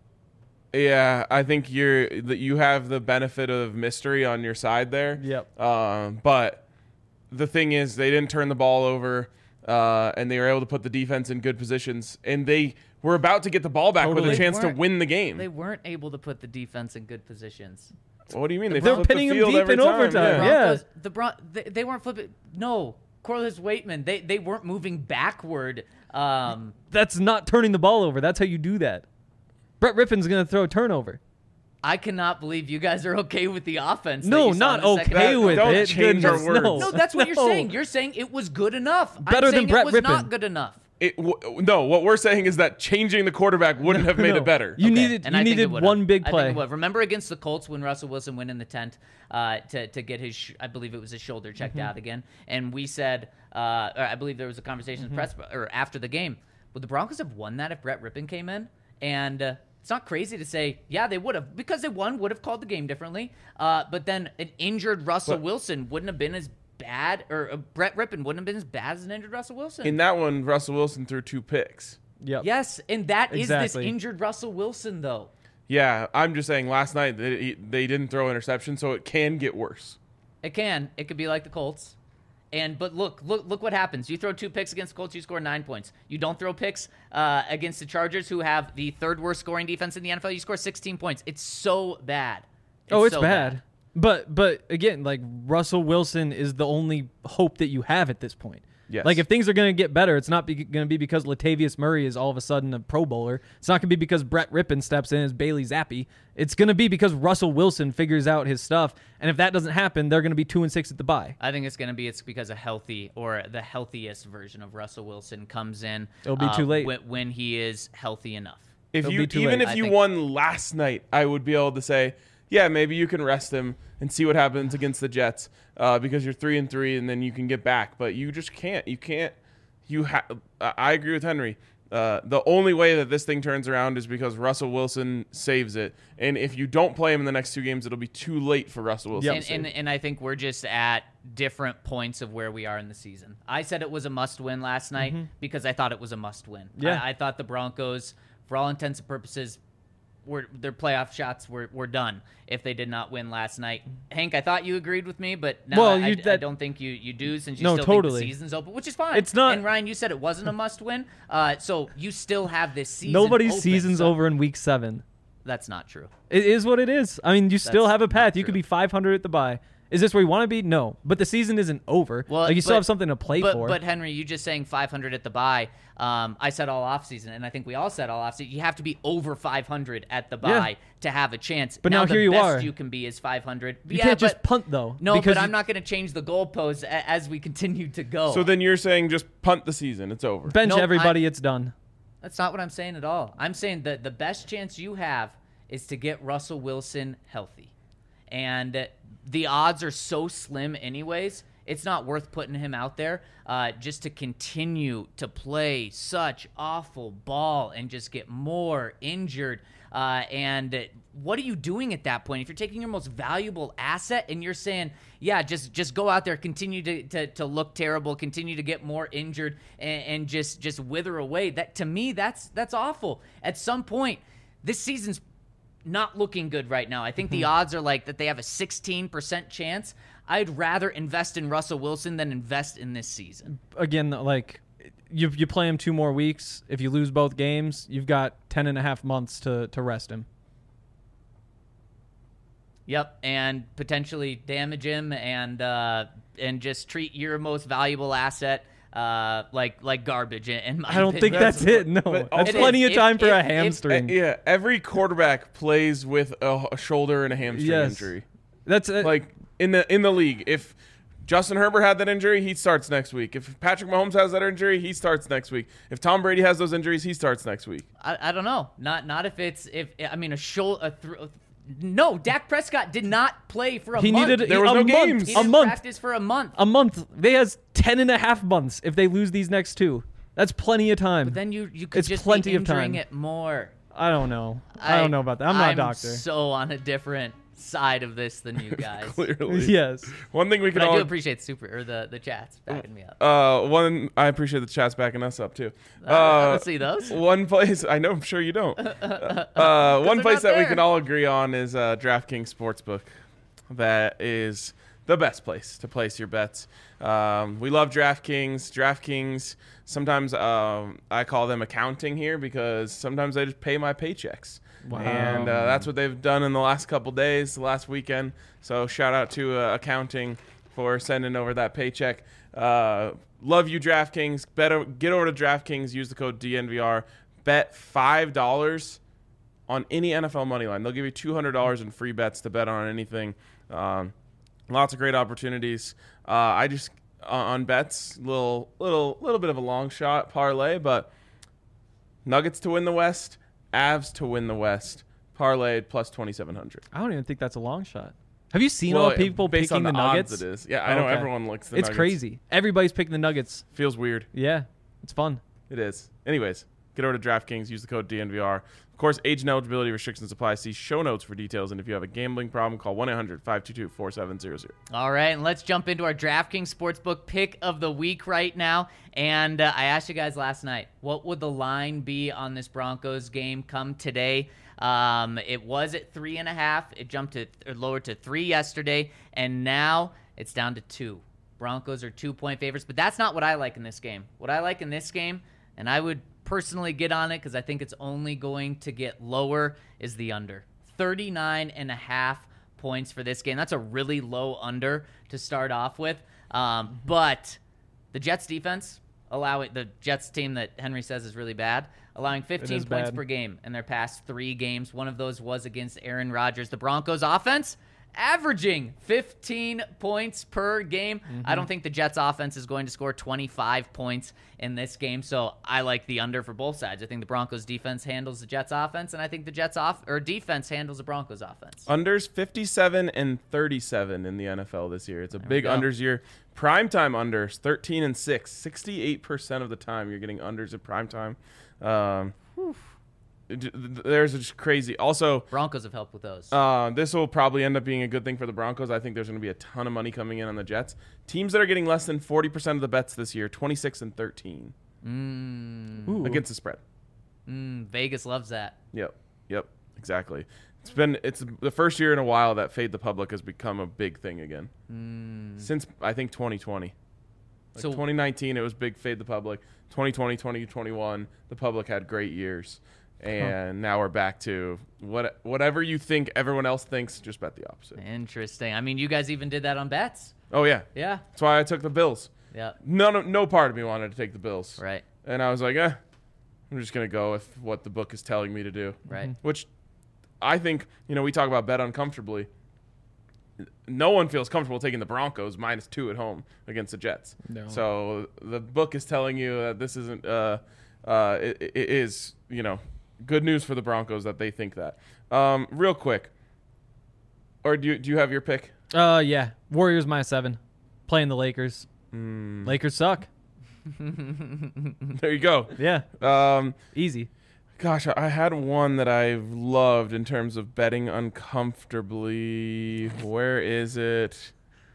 Yeah, I think you're that you have the benefit of mystery on your side there. Yep. Um, but the thing is, they didn't turn the ball over, uh, and they were able to put the defense in good positions, and they were about to get the ball back Totally. with a They chance to weren't- win the game. They weren't able to put the defense in good positions. What do you mean? They They're flipped pinning the him field deep every in time. overtime. Yeah. Yeah. Broncos, the Bron- they, they weren't flipping. No, Corliss Waitman. They they weren't moving backward. Um, That's not turning the ball over. That's how you do that. Brett Rippon's going to throw a turnover. I cannot believe you guys are okay with the offense. that No, you saw not in the second okay That- with don't it. change our Goodness, words. No, No, that's what you're No. saying. You're saying it was good enough. Better I'm than saying Brett it was Rippon. not good enough. It w- no, what we're saying is that changing the quarterback wouldn't have made No. it better. You Okay, needed and you I think it needed would've. one big I think play. it would. Remember against the Colts when Russell Wilson went in the tent uh, to to get his, sh- I believe it was his shoulder checked Mm-hmm. out again, and we said, uh, or I believe there was a conversation in the press or after the game. Would the Broncos have won that if Brett Rippon came in? And uh, it's not crazy to say, yeah, they would have, because they won, would have called the game differently. Uh, but then an injured Russell But- Wilson wouldn't have been as bad, or uh, Brett Rippon wouldn't have been as bad as an injured Russell Wilson. In that one, Russell Wilson threw two picks. Yep. yes, and that is Exactly. this injured Russell Wilson, though. Yeah, I'm just saying. Last night they, they didn't throw interception, so it can get worse. It can. It could be like the Colts. And but look, look, look what happens. You throw two picks against the Colts, you score nine points. You don't throw picks uh, against the Chargers, who have the third worst scoring defense in the N F L. You score sixteen points. It's so bad. Oh, it's so bad. But but again, like Russell Wilson is the only hope that you have at this point. Yes. Like if things are going to get better, it's not be, going to be because Latavius Murray is all of a sudden a Pro Bowler. It's not going to be because Brett Rippon steps in as Bailey Zappi. It's going to be because Russell Wilson figures out his stuff. And if that doesn't happen, they're going to be two and six at the bye. I think it's going to be it's because a healthy or the healthiest version of Russell Wilson comes in. It'll be uh, too late. when, when he is healthy enough. If It'll you be too even late. if I you think- won last night, I would be able to say, yeah, maybe you can rest him and see what happens against the Jets uh, because you're three and three, and then you can get back. But you just can't. You can't. You have. I agree with Henry. Uh, the only way that this thing turns around is because Russell Wilson saves it, and if you don't play him in the next two games, it'll be too late for Russell Wilson. Yep. to And, save and, it. and I think we're just at different points of where we are in the season. I said it was a must win last night because I thought it was a must win. Yeah. I, I thought the Broncos, for all intents and purposes, were their playoff shots were, were done if they did not win last night. Hank, I thought you agreed with me, but now Well, I, you- I, I that- don't think you, you do since you No, still think totally. the season's open, which is fine. It's not- And Ryan, you said it wasn't a must win, uh, so you still have this season. Nobody's open, season's so over in week seven. That's not true. It is what it is. I mean, you still That's have a path. not You could true. be five hundred at the bye. Is this where you want to be? No. But the season isn't over. Well, like you still but- have something to play but, for. But Henry, you just saying five hundred at the bye. Um, I said all offseason, and I think we all said all offseason. You have to be over five hundred at the Yeah. bye to have a chance. But now the here you best are. you can be is five hundred. you yeah, can't just but- punt though. No, because but I'm you- not going to change the goalposts a- as we continue to go. So then you're saying just punt the season. It's over. bench No, everybody. I- it's done. That's not what I'm saying at all. I'm saying that the best chance you have is to get Russell Wilson healthy. And the odds are so slim anyways, it's not worth putting him out there uh, just to continue to play such awful ball and just get more injured. Uh, and what are you doing at that point? If you're taking your most valuable asset and you're saying, yeah, just just go out there, continue to, to, to look terrible, continue to get more injured, and, and just just wither away. That to me, that's that's awful. At some point, this season's not looking good right now. I think Mm-hmm. the odds are like that they have a sixteen percent chance. I'd rather invest in Russell Wilson than invest in this season. Again, like you you play him two more weeks. If you lose both games, you've got ten and a half months to to rest him. Yep, and potentially damage him and uh, and just treat your most valuable asset uh, like like garbage. In, in my I don't think opinion. that's it. No, But that's It plenty is. of time If- for if- a if- hamstring. Uh, yeah, every quarterback plays with a, a shoulder and a hamstring Yes. injury. That's uh, Like in the in the league, if Justin Herbert had that injury, he starts next week. If Patrick Mahomes has that injury, he starts next week. If Tom Brady has those injuries, he starts next week. I, I don't know. Not not if it's if I mean a shoulder. A th- no, Dak Prescott did not play for a he month. needed There was a no month, games. He a didn't month, practice for a month. a month. They has ten and a half months if they lose these next two. That's plenty of time. But then you you could It's just plenty be of injuring time. it more. I don't know. I, don't know about that. I'm not a doctor. so on a different side of this than you guys. Clearly, Yes. One thing we can But I all do appreciate super or the the chats backing me up. uh one I appreciate the chat's backing us up too. Uh, I don't see those. One place I know, I'm sure you don't. Uh, one they're place not that we there. can all agree on is uh, DraftKings Sportsbook. That is the best place to place your bets. Um, we love DraftKings. DraftKings. Sometimes um, I call them accounting here because sometimes they just pay my paychecks. Wow. And uh, that's what they've done in the last couple days, the last weekend. So shout out to uh, accounting for sending over that paycheck. Uh, love you, DraftKings. Better get over to DraftKings. Use the code D N V R. Bet five dollars on any N F L money line. They'll give you two hundred dollars in free bets to bet on anything. Um, lots of great opportunities. Uh, I just uh, on bets, little little little bit of a long shot parlay, but Nuggets to win the West, Avs to win the West, parlayed plus twenty-seven hundred. I don't even think that's a long shot. Have you seen Well, all the people based picking on the, the Nuggets? odds it is. Yeah, I know Okay. everyone looks the It's Nuggets. crazy. Everybody's picking the Nuggets. Feels weird. Yeah, it's fun. It is. Anyways, get over to DraftKings. Use the code D N V R. Of course, age and eligibility restrictions apply. See show notes for details. And if you have a gambling problem, call one eight hundred five two two four seven zero zero. All right, and let's jump into our DraftKings Sportsbook pick of the week right now. And uh, I asked you guys last night, what would the line be on this Broncos game come today? Um, it was at three and a half. It jumped to or lowered to three yesterday, and now it's down to two. Broncos are two-point favorites, but that's not what I like in this game. What I like in this game, and I would personally get on it because I think it's only going to get lower, is the under. thirty-nine and a half points for this game. That's a really low under to start off with. Um, but the Jets defense, allowing the Jets team that Henry says is really bad, allowing fifteen is points bad. per game in their past three games. One of those was against Aaron Rodgers. The Broncos offense averaging fifteen points per game. I don't think the Jets offense is going to score twenty-five points in this game, so I like the under for both sides. I think the Broncos defense handles the Jets offense, and I think the Jets off or defense handles the Broncos offense. Unders fifty-seven and thirty-seven in the N F L this year. It's a big go. unders year. Primetime unders thirteen and six. sixty-eight percent of the time you're getting unders at primetime. Um, d- th- there's just crazy. Also, Broncos have helped with those. Uh, this will probably end up being a good thing for the Broncos. I think there's going to be a ton of money coming in on the Jets. Teams that are getting less than forty percent of the bets this year, twenty-six and thirteen Mm, Ooh. against the spread. mm, Vegas loves that. Yep. Yep. Exactly. It's been it's the first year in a while that fade the public has become a big thing again. Since I think twenty twenty. Like So- twenty nineteen it was big fade the public. twenty twenty, twenty twenty-one the public had great years. And now we're back to what whatever you think everyone else thinks, just bet the opposite. Interesting. I mean, you guys even did that on bets. Oh yeah. Yeah. That's why I took the Bills. Yeah. No, no, no part of me wanted to take the Bills. Right. And I was like, eh, I'm just going to go with what the book is telling me to do. Right. Which I think, you know, we talk about bet uncomfortably. No one feels comfortable taking the Broncos minus two at home against the Jets. No. So the book is telling you that this isn't, uh, uh, it, it is, you know, good news for the Broncos that they think that. Um, real quick. Or do you, do you have your pick? Uh, yeah. Warriors minus seven. Playing the Lakers. Hmm. Lakers suck. There you go. Yeah. Um, Easy. Gosh, I had one that I've loved in terms of betting uncomfortably. Where is it?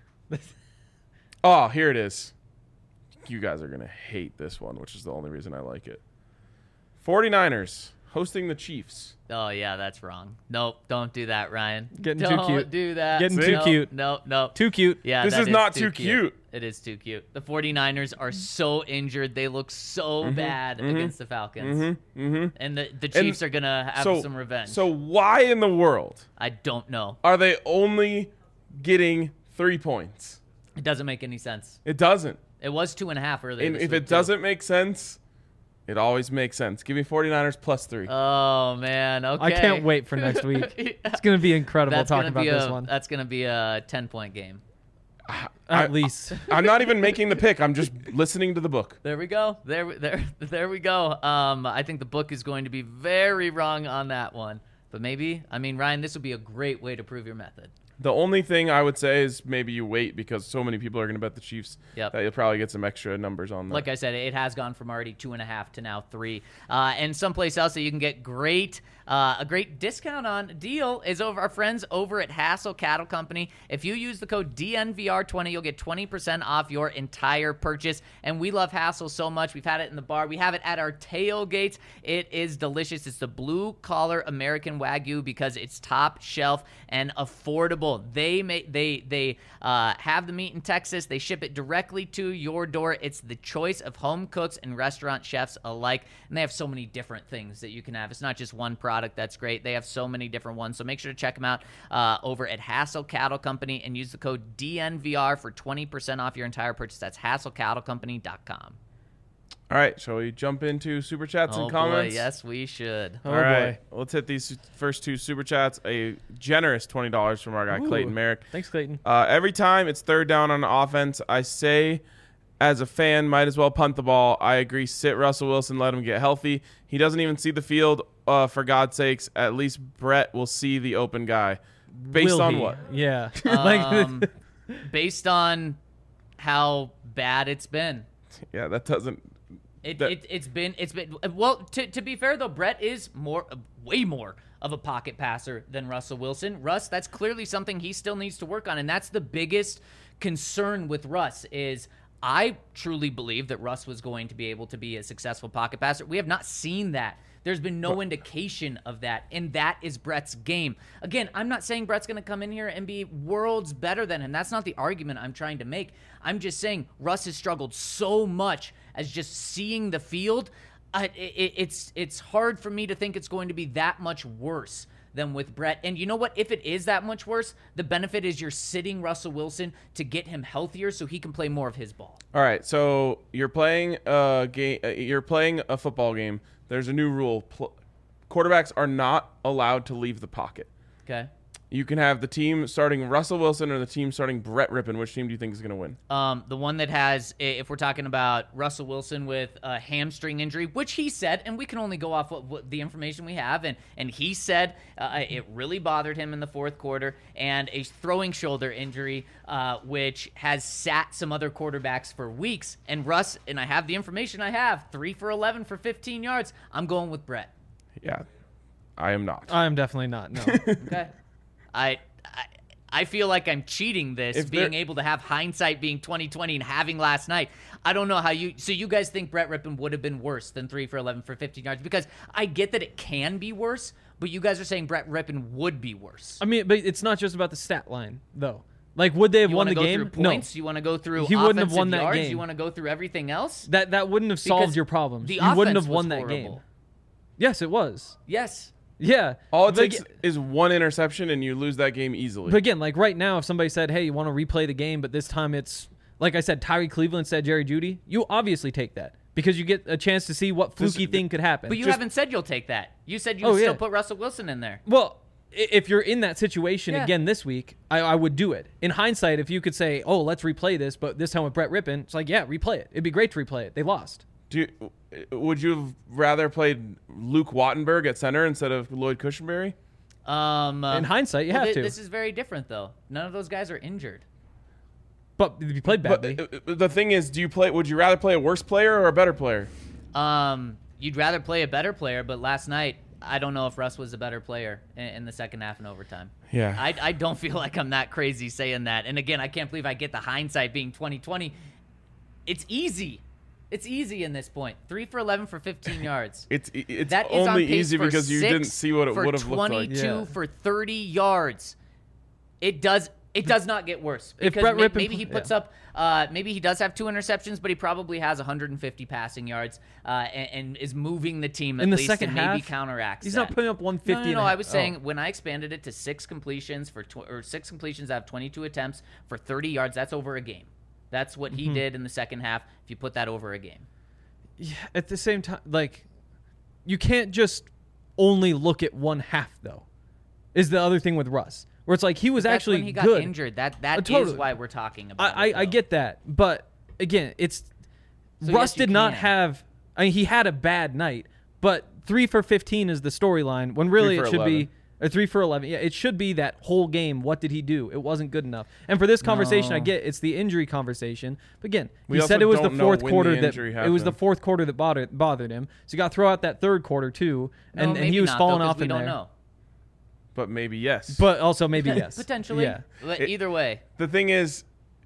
Oh, here it is. You guys are going to hate this one, which is the only reason I like it. 49ers, hosting the Chiefs. Oh yeah, that's wrong. Nope, don't do that, Ryan. Getting too don't cute. do that. Getting too Nope, cute. Nope, nope. Too cute. Yeah, This that is not too cute. It is too cute. The 49ers are so injured. They look so bad against the Falcons. Mm-hmm. Mm-hmm. And the, the Chiefs are going to have so, some revenge. So why in the world I don't know. are they only getting three points? It doesn't make any sense. It doesn't. It was two and a half earlier And this if week, it too. doesn't make sense, it always makes sense. Give me 49ers plus three. Oh, man. Okay. I can't wait for next week. Yeah. It's going to be incredible That's talking gonna about be this a, one. That's going to be a ten-point game. At I- least. I'm not even making the pick. I'm just listening to the book. There we go. There, we- there, there we go. Um, I think the book is going to be very wrong on that one. But maybe, I mean, Ryan, this would be a great way to prove your method. The only thing I would say is maybe you wait because so many people are going to bet the Chiefs Yep. that you'll probably get some extra numbers on that. Like I said, it has gone from already two and a half to now three. Uh, and someplace else that you can get great, uh, a great discount on deal is over our friends over at Hassel Cattle Company. If you use the code D N V R twenty, you'll get twenty percent off your entire purchase. And we love Hassel so much. We've had it in the bar. We have it at our tailgates. It is delicious. It's the blue collar American Wagyu because it's top shelf and affordable. They make they they uh, have the meat in Texas. They ship it directly to your door. It's the choice of home cooks and restaurant chefs alike, and they have so many different things that you can have. It's not just one product. That's great. They have so many different ones. So make sure to check them out uh, over at Hassel Cattle Company and use the code D N V R for twenty percent off your entire purchase. That's hassel cattle company dot com. All right, shall we jump into super chats Oh and boy, comments? yes, we should. Oh, All right, boy. let's hit these first two super chats. A generous twenty dollars from our guy Ooh. Clayton Merrick. Thanks, Clayton. Uh, every time it's third down on offense, I say, as a fan, might as well punt the ball. I agree. Sit Russell Wilson, let him get healthy. He doesn't even see the field. Uh, for God's sakes, at least Brett will see the open guy. Based Will on he? what? Yeah. like Um, based on how bad it's been. Yeah, that doesn't. It, That- it it's been it's been well to to be fair though, Brett is more way more of a pocket passer than Russell Wilson. Russ, that's clearly something he still needs to work on, and that's the biggest concern with Russ is I truly believe that Russ was going to be able to be a successful pocket passer. We have not seen that. There's been no indication of that, and that is Brett's game. Again, I'm not saying Brett's going to come in here and be worlds better than him. That's not the argument I'm trying to make. I'm just saying Russ has struggled so much as just seeing the field. Uh, it, it's it's hard for me to think it's going to be that much worse than with Brett. And you know what? If it is that much worse, the benefit is you're sitting Russell Wilson to get him healthier so he can play more of his ball. All right, so you're playing a game. Uh, you're playing a football game. There's a new rule. Pl- quarterbacks are not allowed to leave the pocket. Okay. You can have the team starting Russell Wilson or the team starting Brett Rippon. Which team do you think is going to win? Um, the one that has, i- if we're talking about Russell Wilson with a hamstring injury, which he said, and we can only go off what, what the information we have, and and he said uh, it really bothered him in the fourth quarter, and a throwing shoulder injury, uh, which has sat some other quarterbacks for weeks. And Russ, and I have the information I have, three for eleven for fifteen yards. I'm going with Brett. Yeah, I am not. I'm definitely not. No. Okay. I, I I feel like I'm cheating this, If being there- able to have hindsight being twenty twenty and having last night. I don't know how you. So you guys think Brett Rippon would have been worse than three for eleven for fifteen yards? Because I get that it can be worse, but you guys are saying Brett Rippon would be worse. I mean, but it's not just about the stat line, though. Like, would they have You won want the to go game? through points? You want to go through He wouldn't have offensive won that yards? game. You want to go through everything else? No. That that wouldn't have solved Because your problems. The You wouldn't offense have won was that game. horrible. Yes, it was. Yes. Yeah. All it But takes aga- is one interception, and you lose that game easily. But again, like right now, if somebody said, "Hey, you want to replay the game," but this time it's like I said, Tyree Cleveland said Jerry Jeudy, you obviously take that because you get a chance to see what This- fluky thing could happen. But you Just- haven't said you'll take that. You said you Oh, would still yeah. put Russell Wilson in there. Well, i- if you're in that situation Yeah. again this week, I, I would do it. In hindsight, if you could say, "Oh, let's replay this," but this time with Brett Rippon, it's like, yeah, replay it. It'd be great to replay it. They lost. Do you, would you have rather played Luke Wattenberg at center instead of Lloyd Cushenberry? Um, uh, In hindsight, you well, have thi- to. This is very different, though. None of those guys are injured. But if you played badly. But uh, the thing is, do you play? Would you rather play a worse player or a better player? Um, you'd rather play a better player, but last night, I don't know if Russ was a better player in, in the second half and overtime. Yeah. I, I don't feel like I'm that crazy saying that. And again, I can't believe I get the hindsight being twenty twenty. It's easy. It's easy in this point. Three for eleven for fifteen yards. It's it's That is on only pace easy for because you six didn't see what it for would have looked like. twenty-two Yeah. for thirty yards. It does. It does not get worse If because Brett may- Rippon maybe pl- he puts yeah. up. Uh, maybe he does have two interceptions, but he probably has one hundred fifty passing yards uh, and, and is moving the team at In the least second and maybe half, counteracts. he's that. not putting up one No, fifty. no, and no. a I half. was Oh. saying when I expanded it to six completions for tw- or six completions out of twenty-two attempts for thirty yards. That's over a game. That's what he Mm-hmm. did in the second half. If you put that over a game. Yeah, at the same time, like, you can't just only look at one half, though, is the other thing with Russ. Where it's like he was That's actually when he got good. injured. That that Uh, is totally. why we're talking about. I, it, I, I though. get that. But, again, it's So Russ yes, you did not can. have – I mean, he had a bad night. But three for fifteen is the storyline when really Three it for should eleven. be – or three for eleven. Yeah, it should be that whole game. What did he do? It wasn't good enough. And for this conversation, I No. get it's the injury conversation. But again, We he also said it was the don't know fourth when quarter the that injury it was the happened. fourth quarter that bothered bothered him. So you got to throw out that third quarter too, No, and, and maybe he was not, falling though, 'cause off we in don't there. know. But maybe yes. But also maybe yes, Potentially. Yeah, But It- either way. the thing is,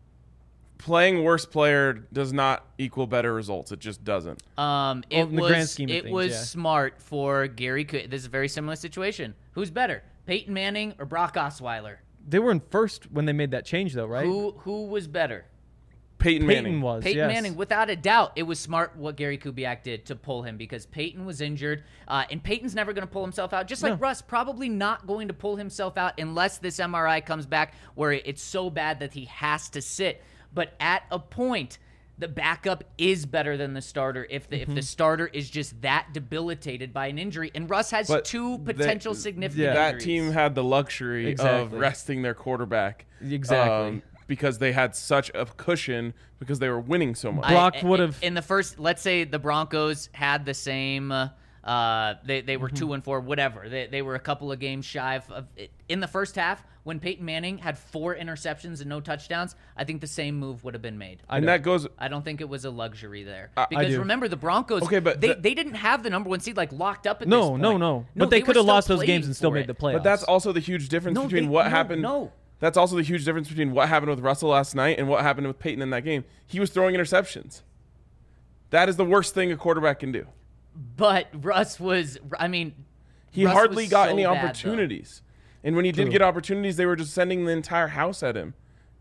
playing worse player does not equal better results. It just doesn't. Um, it Well, in the was grand scheme of it things, was yeah. smart for Gary. Coo- This is a very similar situation. Who's better, Peyton Manning or Brock Osweiler? they were in first when they made that change though, right? Who who was better? Peyton, Peyton Manning was Peyton yes. Manning, without a doubt. It was smart what Gary Kubiak did to pull him because Peyton was injured, uh, and Peyton's never going to pull himself out. Just like No. Russ, probably not going to pull himself out unless this M R I comes back where it's so bad that he has to sit. But at a point, the backup is better than the starter if the Mm-hmm. if the starter is just that debilitated by an injury. And Russ has But two that- potential significant yeah. that injuries. team had the luxury of Exactly. resting their quarterback. Exactly. um, because they had such a cushion because they were winning so much. I- Brock I- would've- in the first. Let's say the Broncos had the same. Uh, uh, they they were Mm-hmm. two and four, whatever. They they were a couple of games shy of, of in the first half when Peyton Manning had four interceptions and no touchdowns. I think the same move would have been made. I and know. that goes. I don't think it was a luxury there I because do. remember the Broncos. Okay, but they, the- they didn't have the number one seed like locked up at No, this point. no, no. But they were could have still lost those games playing and still for made it. the playoffs. But that's also the huge difference No, between they- what no, happened. no. That's also the huge difference between what happened with Russell last night and what happened with Peyton in that game. He was throwing interceptions. That is the worst thing a quarterback can do. But Russ was. I mean, He Russ hardly was got so any bad, though. opportunities. And when he did True. get opportunities, they were just sending the entire house at him.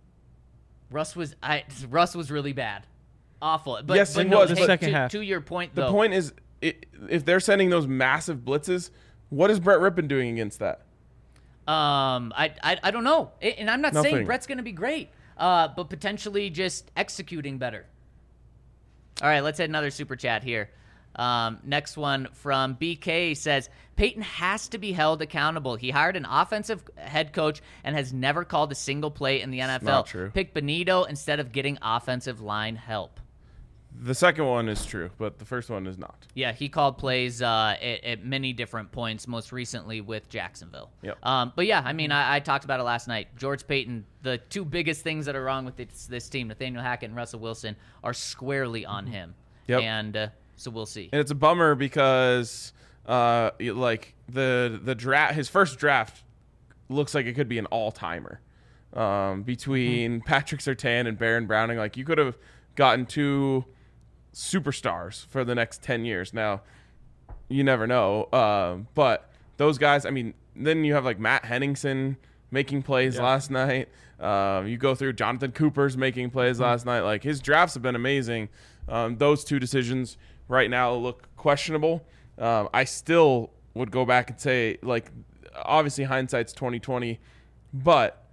Russ was I Russ was really bad, awful. But, Yes, but he no, was, hey, but- Second to, half. to your point, The though, point is, i if they're sending those massive blitzes, what is Brett Rippon doing against that? um, I, I I don't know, A- and I'm not saying Nothing. Brett's going to be great, uh, but potentially just executing better. All right, let's hit another super chat here. Um, next one from B K says Peyton has to be held accountable. He hired an offensive head coach and has never called a single play in the N F L. not true. Pick Benito instead of getting offensive line help. The second one is true, but the first one is not. Yeah, he called plays uh, at, at many different points, most recently with Jacksonville. Yep. Um, but yeah, I mean, I, I talked about it last night. George Payton, the two biggest things that are wrong with this, this team, Nathaniel Hackett and Russell Wilson, are squarely on him. Yep. And uh, so we'll see. And it's a bummer because, uh, it- like the the draft, his first draft looks like it could be an all timer. Um, between Patrick Surtain and Baron Browning, like you could have gotten two superstars for the next ten years. Now, you never know. Um, but those guys, I mean, then you have like Matt Henningsen making plays Yeah. last night. Um, you go through Jonathan Cooper's making plays last night. Like his drafts have been amazing. Um, those two decisions right now look questionable. Um, I still would go back and say, like, obviously hindsight's twenty twenty, but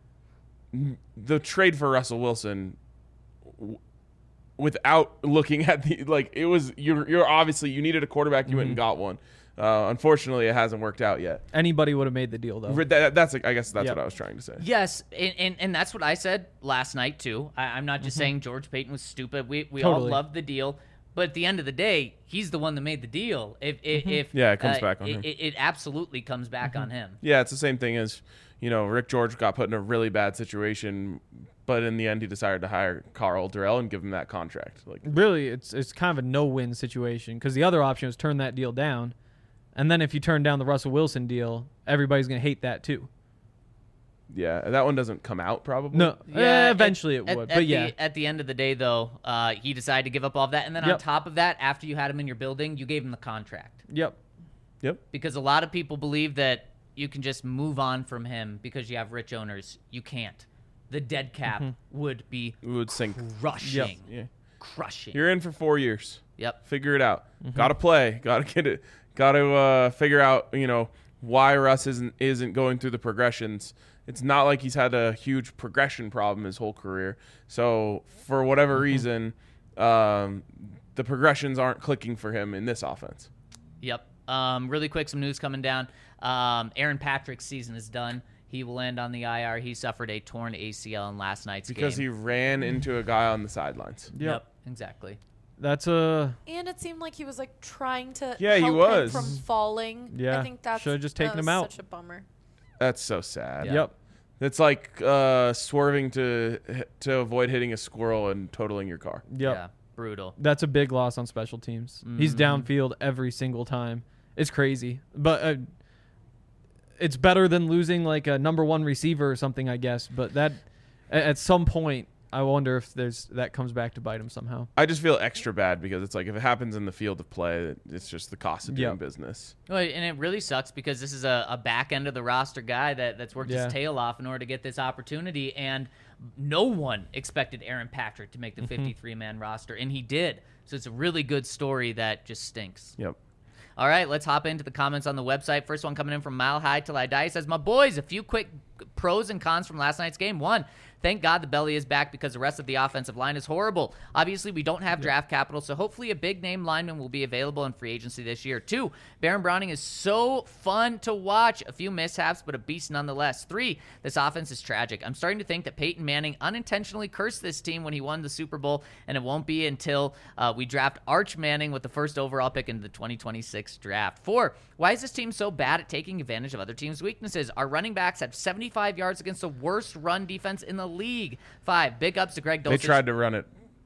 the trade for Russell Wilson, w- without looking at the like, it was you're you're obviously you needed a quarterback, you went and got one. Uh, unfortunately, it hasn't worked out yet. Anybody would have made the deal though. That- that- that's I guess that's Yep. what I was trying to say. Yes, and, and, and that's what I said last night, too. I, I'm not just saying George Payton was stupid. We, we all Totally. loved the deal. But at the end of the day, he's the one that made the deal. If, if, if Yeah, it comes uh, back on it, him. It, it absolutely comes back on him. Yeah, it's the same thing as, you know, Rick George got put in a really bad situation, but in the end he decided to hire Carl Durrell and give him that contract. Like, Really, it's it's kind of a no-win situation because the other option was turn that deal down, and then if you turn down the Russell Wilson deal, everybody's going to hate that too. Yeah, that one doesn't come out probably. No, Yeah, eh, eventually at- it would. at- but at yeah, the, at the end of the day, though, uh, he decided to give up all of that, and then on Yep. top of that, after you had him in your building, you gave him the contract yep. Yep. because a lot of people believe that you can just move on from him because you have rich owners. You can't. The dead cap would be We would sink. crushing, Yeah. crushing. You're in for four years. Yep. Figure it out. Got to play. Got to get it. Got to uh, figure out, you know, why Russ isn't isn't going through the progressions. It's not like he's had a huge progression problem his whole career. So for whatever reason, um, the progressions aren't clicking for him in this offense. Yep. Um, really quick, some news coming down. Um, Aaron Patrick's season is done. He will end on the I R. He suffered a torn A C L in last night's Because game. he ran into a guy on the sidelines. Yep. Exactly. That's a And it seemed like he was like trying to Yeah, he help was. him from falling. Yeah, I think that's should've just that taken him was out. Such a bummer. That's so sad. Yeah. yep. It's like uh, swerving to to avoid hitting a squirrel and totaling your car. Yep. Yeah. Brutal. That's a big loss on special teams. He's downfield every single time. It's crazy, but uh, it's better than losing like a number one receiver or something, I guess. But that a- at some point, I wonder if there's that comes back to bite him somehow. I just feel extra bad because it's like if it happens in the field of play, it's just the cost of doing Yep. business. Well, and it really sucks because this is a, a back end of the roster guy that, that's worked Yeah. his tail off in order to get this opportunity. And no one expected Aaron Patrick to make the fifty-three man roster, and he did. So it's a really good story that just stinks. Yep. All right, let's hop into the comments on the website. First one coming in from Mile High Till I Die. He says, my boys, a few quick pros and cons from last night's game. One, thank God the belly is back because the rest of the offensive line is horrible. Obviously, we don't have draft capital, so hopefully a big-name lineman will be available in free agency this year. Two, Baron Browning is so fun to watch. A few mishaps, but a beast nonetheless. Three, this offense is tragic. I'm starting to think that Peyton Manning unintentionally cursed this team when he won the Super Bowl, and it won't be until uh, we draft Arch Manning with the first overall pick in the twenty twenty-six draft. Four, why is this team so bad at taking advantage of other teams' weaknesses? Our running backs have seventy-five yards against the worst run defense in the league. Five, big ups to Greg Dulcich. They tried to run it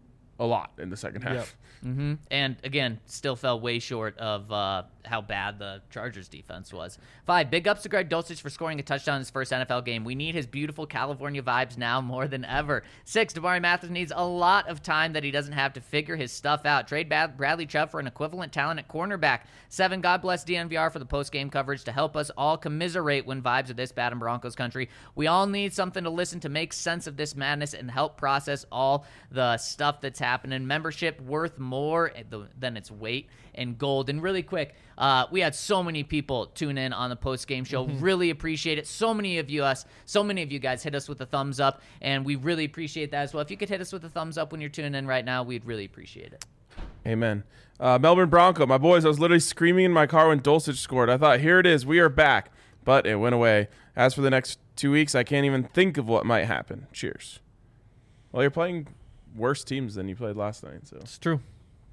a lot in the second half. Yep. Mm-hmm. And again, still fell way short of uh, how bad the Chargers defense was. Five, big ups to Greg Dulcich for scoring a touchdown in his first N F L game. We need his beautiful California vibes now more than ever. Six, Damari Mathis needs a lot of time that he doesn't have to figure his stuff out. Trade Bad- Bradley Chubb for an equivalent talent at cornerback. Seven, God bless D N V R for the post-game coverage to help us all commiserate when vibes are this bad in Broncos country. We all need something to listen to make sense of this madness and help process all the stuff that's happening. Membership worth more than its weight in gold. And really quick, uh, we had so many people tune in on the post-game show. Really appreciate it. So many of you us, so many of you guys hit us with a thumbs up, and we really appreciate that as well. If you could hit us with a thumbs up when you're tuning in right now, we'd really appreciate it. Amen. Uh, Melbourne Bronco, my boys, I was literally screaming in my car when Dulcich scored. I thought, here it is, we are back. But it went away. As for the next two weeks, I can't even think of what might happen. Cheers. Well, you're playing worse teams than you played last night. So It's true.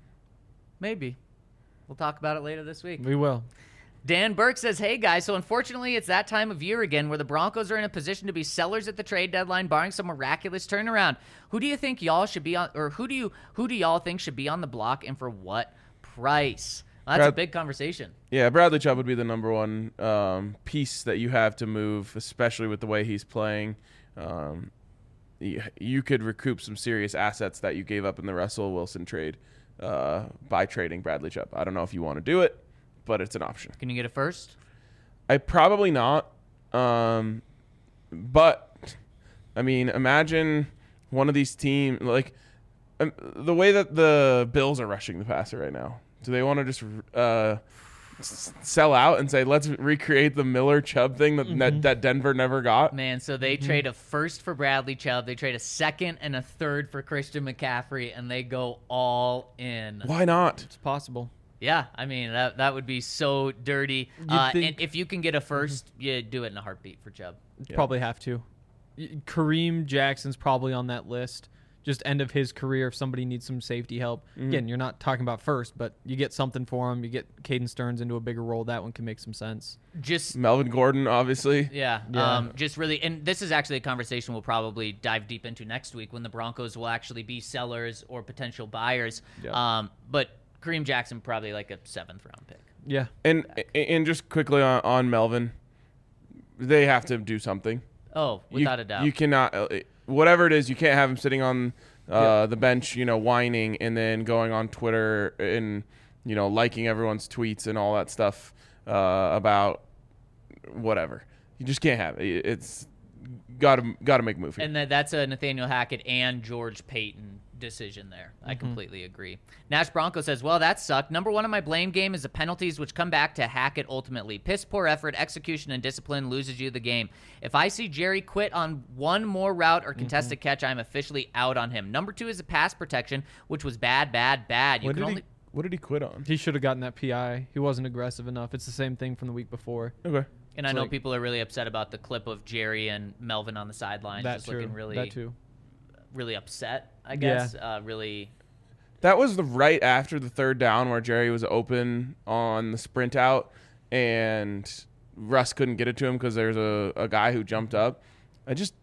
Maybe. We'll talk about it later this week. We will. Dan Burke says, hey, guys, so unfortunately it's that time of year again where the Broncos are in a position to be sellers at the trade deadline, barring some miraculous turnaround. Who do you think y'all should be on, or who do you who do y'all think should be on the block and for what price? Well, that's a Brad- big conversation. yeah, Bradley Chubb would be the number one um, piece that you have to move, especially with the way he's playing. Um, you, you could recoup some serious assets that you gave up in the Russell Wilson trade uh, by trading Bradley Chubb. I don't know if you want to do it, but it's an option. Can you get it first? I probably not. Um, but I mean, imagine one of these teams like um, the way that the Bills are rushing the passer right now. Do they want to just uh, s- sell out and say, let's recreate the Miller Chubb thing that that, that Denver never got? Man, so they Mm-hmm. trade a first for Bradley Chubb, they trade a second and a third for Christian McCaffrey, and they go all in. Why not? It's possible. Yeah, I mean, that that would be so dirty. Uh, think- and if you can get a first, you do it in a heartbeat for Chubb. Yeah. Probably have to. Y- Kareem Jackson's probably on that list. Just end of his career if somebody needs some safety help. Again, you're not talking about first, but you get something for him. You get Caden Stearns into a bigger role. That one can make some sense. Just Melvin Gordon, obviously. Yeah, Yeah. Um, just really, and this is actually a conversation we'll probably dive deep into next week when the Broncos will actually be sellers or potential buyers. Yeah. Um, but Kareem Jackson probably like a seventh round pick. Yeah. And and just quickly on, on Melvin, they have to do something. Oh, You- without a doubt. You cannot, uh, whatever it is, you can't have him sitting on uh, Yeah. the bench, you know, whining and then going on Twitter and, you know, liking everyone's tweets and all that stuff uh, about whatever. You just can't have it. It's got to got to make a move here. And that, that's a Nathaniel Hackett and George Payton decision there. I completely agree. Nash Bronco says, well, that sucked. Number one on my blame game is the penalties, which come back to Hackett ultimately. Piss poor effort, execution, and discipline loses you the game. If I see Jerry quit on one more route or contested catch, I'm officially out on him. Number two is the pass protection, which was bad, bad, bad. You what can did only... he What did he quit on? He should have gotten that P I. He wasn't aggressive enough. It's the same thing from the week before. Okay. And I It's know like- people are really upset about the clip of Jerry and Melvin on the sidelines That just too. looking really, that too. really upset, I guess. Uh, really... That was the right after the third down where Jerry was open on the sprint out and Russ couldn't get it to him because there's a, a guy who jumped up. I just,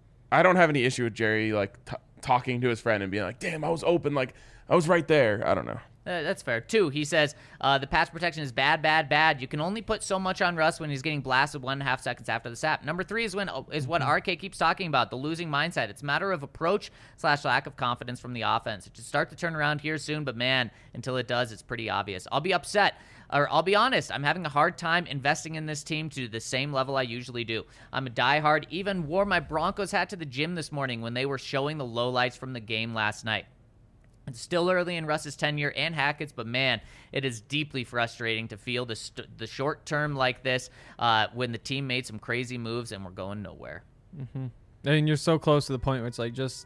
I don't have any issue with Jerry like t- talking to his friend and being like, damn, I was open. Like I was right there. I don't know. Uh, that's fair. Two, he says, uh, the pass protection is bad, bad, bad. You can only put so much on Russ when he's getting blasted one and a half seconds after the snap. Number three is when is what R K keeps talking about, the losing mindset. It's a matter of approach slash lack of confidence from the offense. It should start to turn around here soon, but man, until it does, it's pretty obvious. I'll be upset. Or I'll be honest, I'm having a hard time investing in this team to the same level I usually do. I'm a diehard, even wore my Broncos hat to the gym this morning when they were showing the lowlights from the game last night. It's still early in Russ's tenure and Hackett's, but man, it is deeply frustrating to feel the st- the short term like this uh, when the team made some crazy moves and we're going nowhere. I mean, you're so close to the point where it's like just,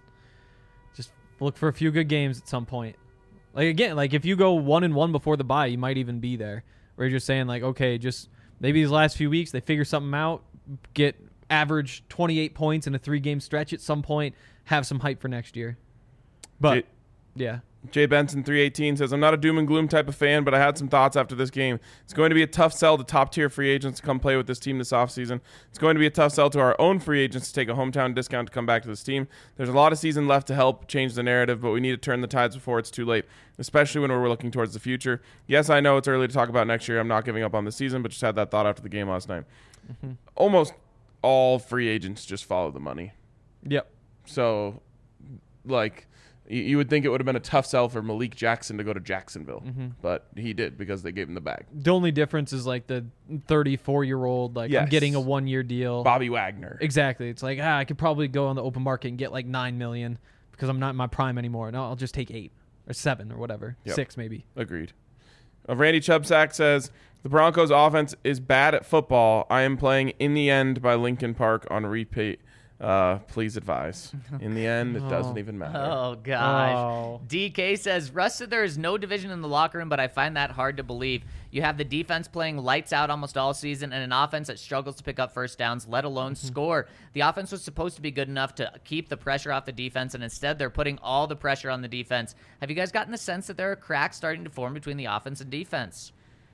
just look for a few good games at some point. Like again, like if you go one and one before the bye, you might even be there. Where you're just saying like, okay, just maybe these last few weeks they figure something out, get average twenty-eight points in a three game stretch at some point, have some hype for next year. But Jay, yeah. Jay Benson three eighteen says, I'm not a doom and gloom type of fan, but I had some thoughts after this game. It's going to be a tough sell to top-tier free agents to come play with this team this offseason. It's going to be a tough sell to our own free agents to take a hometown discount to come back to this team. There's a lot of season left to help change the narrative, but we need to turn the tides before it's too late, especially when we're looking towards the future. Yes, I know it's early to talk about next year. I'm not giving up on the season, but just had that thought after the game last night. Mm-hmm. Almost all free agents just follow the money. Yep. So, like... You would think it would have been a tough sell for Malik Jackson to go to Jacksonville, Mm-hmm. but he did because they gave him the bag. The only difference is like the thirty-four year old, like Yes. I'm getting a one year deal. Bobby Wagner. Exactly. It's like, ah, I could probably go on the open market and get like nine million because I'm not in my prime anymore. No, I'll just take eight or seven or whatever. Yep. Six maybe. Agreed. Uh, Randy Chubsack says, the Broncos offense is bad at football. I am playing In the End by Linkin Park on repeat. Uh, please advise. In the end, it doesn't even matter. Oh, gosh. Oh. D K says, Russ said there is no division in the locker room, but I find that hard to believe. You have the defense playing lights out almost all season and an offense that struggles to pick up first downs, let alone score. The offense was supposed to be good enough to keep the pressure off the defense, and instead they're putting all the pressure on the defense. Have you guys gotten the sense that there are cracks starting to form between the offense and defense?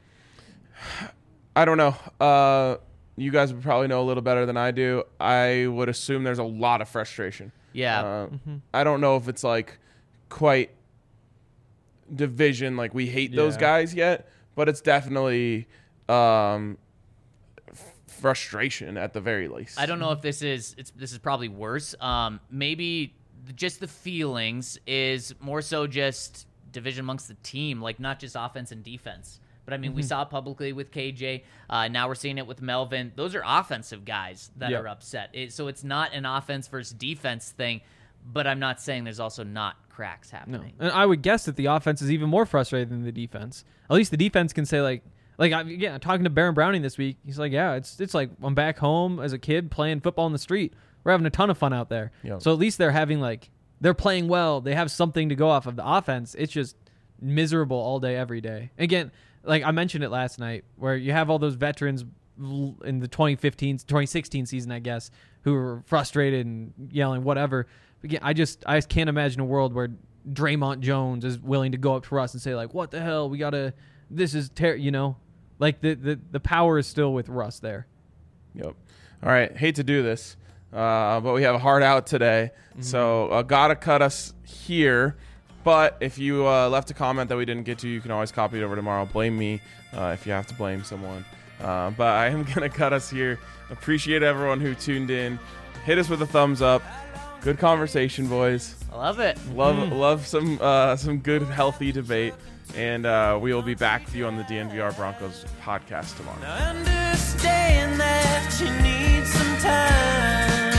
I don't know. Uh, you guys would probably know a little better than I do. I would assume there's a lot of frustration. Yeah. Uh, I don't know if it's like quite division, like we hate those Yeah. guys yet, but it's definitely um, f- frustration at the very least. I don't know if this is it's this is probably worse. Um, maybe just the feelings is more so just division amongst the team, like not just offense and defense. But I mean, we saw it publicly with K J. Uh, now we're seeing it with Melvin. Those are offensive guys that Yep. are upset. It, so it's not an offense versus defense thing. But I'm not saying there's also not cracks No. happening. And I would guess that the offense is even more frustrated than the defense. At least the defense can say like, like I, yeah, talking to Baron Browning this week, he's like, yeah, it's it's like I'm back home as a kid playing football in the street. We're having a ton of fun out there. Yep. So at least they're having like they're playing well. They have something to go off of. The offense, it's just miserable all day, every day. Again, like I mentioned it last night, where you have all those veterans l- in the twenty fifteen, twenty sixteen season, I guess, who were frustrated and yelling whatever. Again, I just I just can't imagine a world where Draymond Jones is willing to go up to Russ and say like, "What the hell? We gotta. This is ter-, you know, like the the the power is still with Russ there." Yep. All right. Hate to do this, uh, but we have a hard out today, so uh, gotta cut us here. But if you uh, left a comment that we didn't get to, you can always copy it over tomorrow. Blame me uh, if you have to blame someone. Uh, but I am going to cut us here. Appreciate everyone who tuned in. hit us with a thumbs up. Good conversation, boys. I love it. Love love some uh, some good, healthy debate. And uh, we will be back with you on the D N V R Broncos podcast tomorrow. Now understand that you need some time.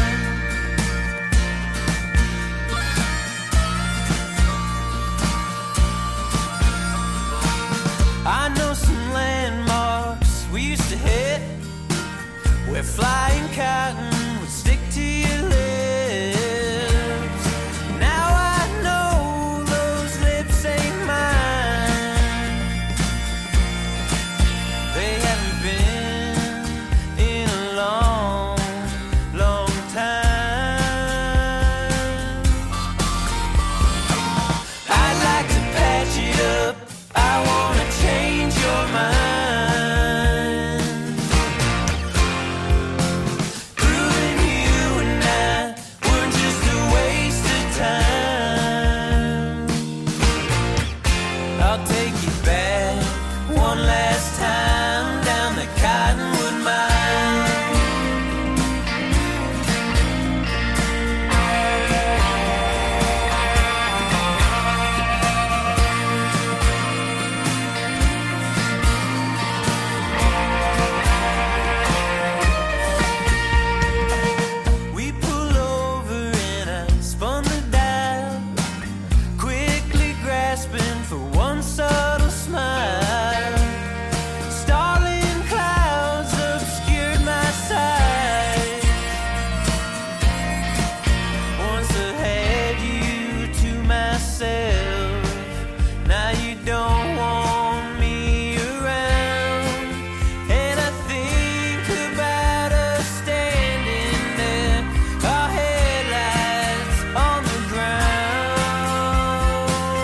I know some landmarks we used to hit where flying cotton would stick to your lips. Now I know those lips ain't mine. They haven't been in a long, long time. I'd like to patch it up. I wanna change your mind. Proving you and I were just a waste of time. I'll take you back one last time down the Cottonwood Mine. We pull over and I spun the dial, quickly grasping for one subtle smile. Starling clouds obscured my sight. Once I had you to myself, now you don't want me around. And I think about us standing there, our headlights on the ground.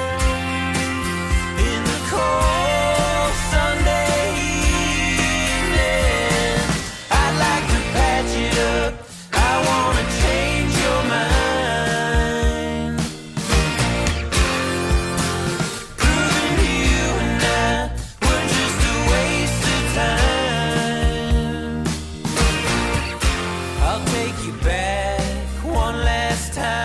In the cold Sunday evening, I'd like to patch it up. I wanna change your mind. Proving you and I were just a waste of time. I'll take you back one last time.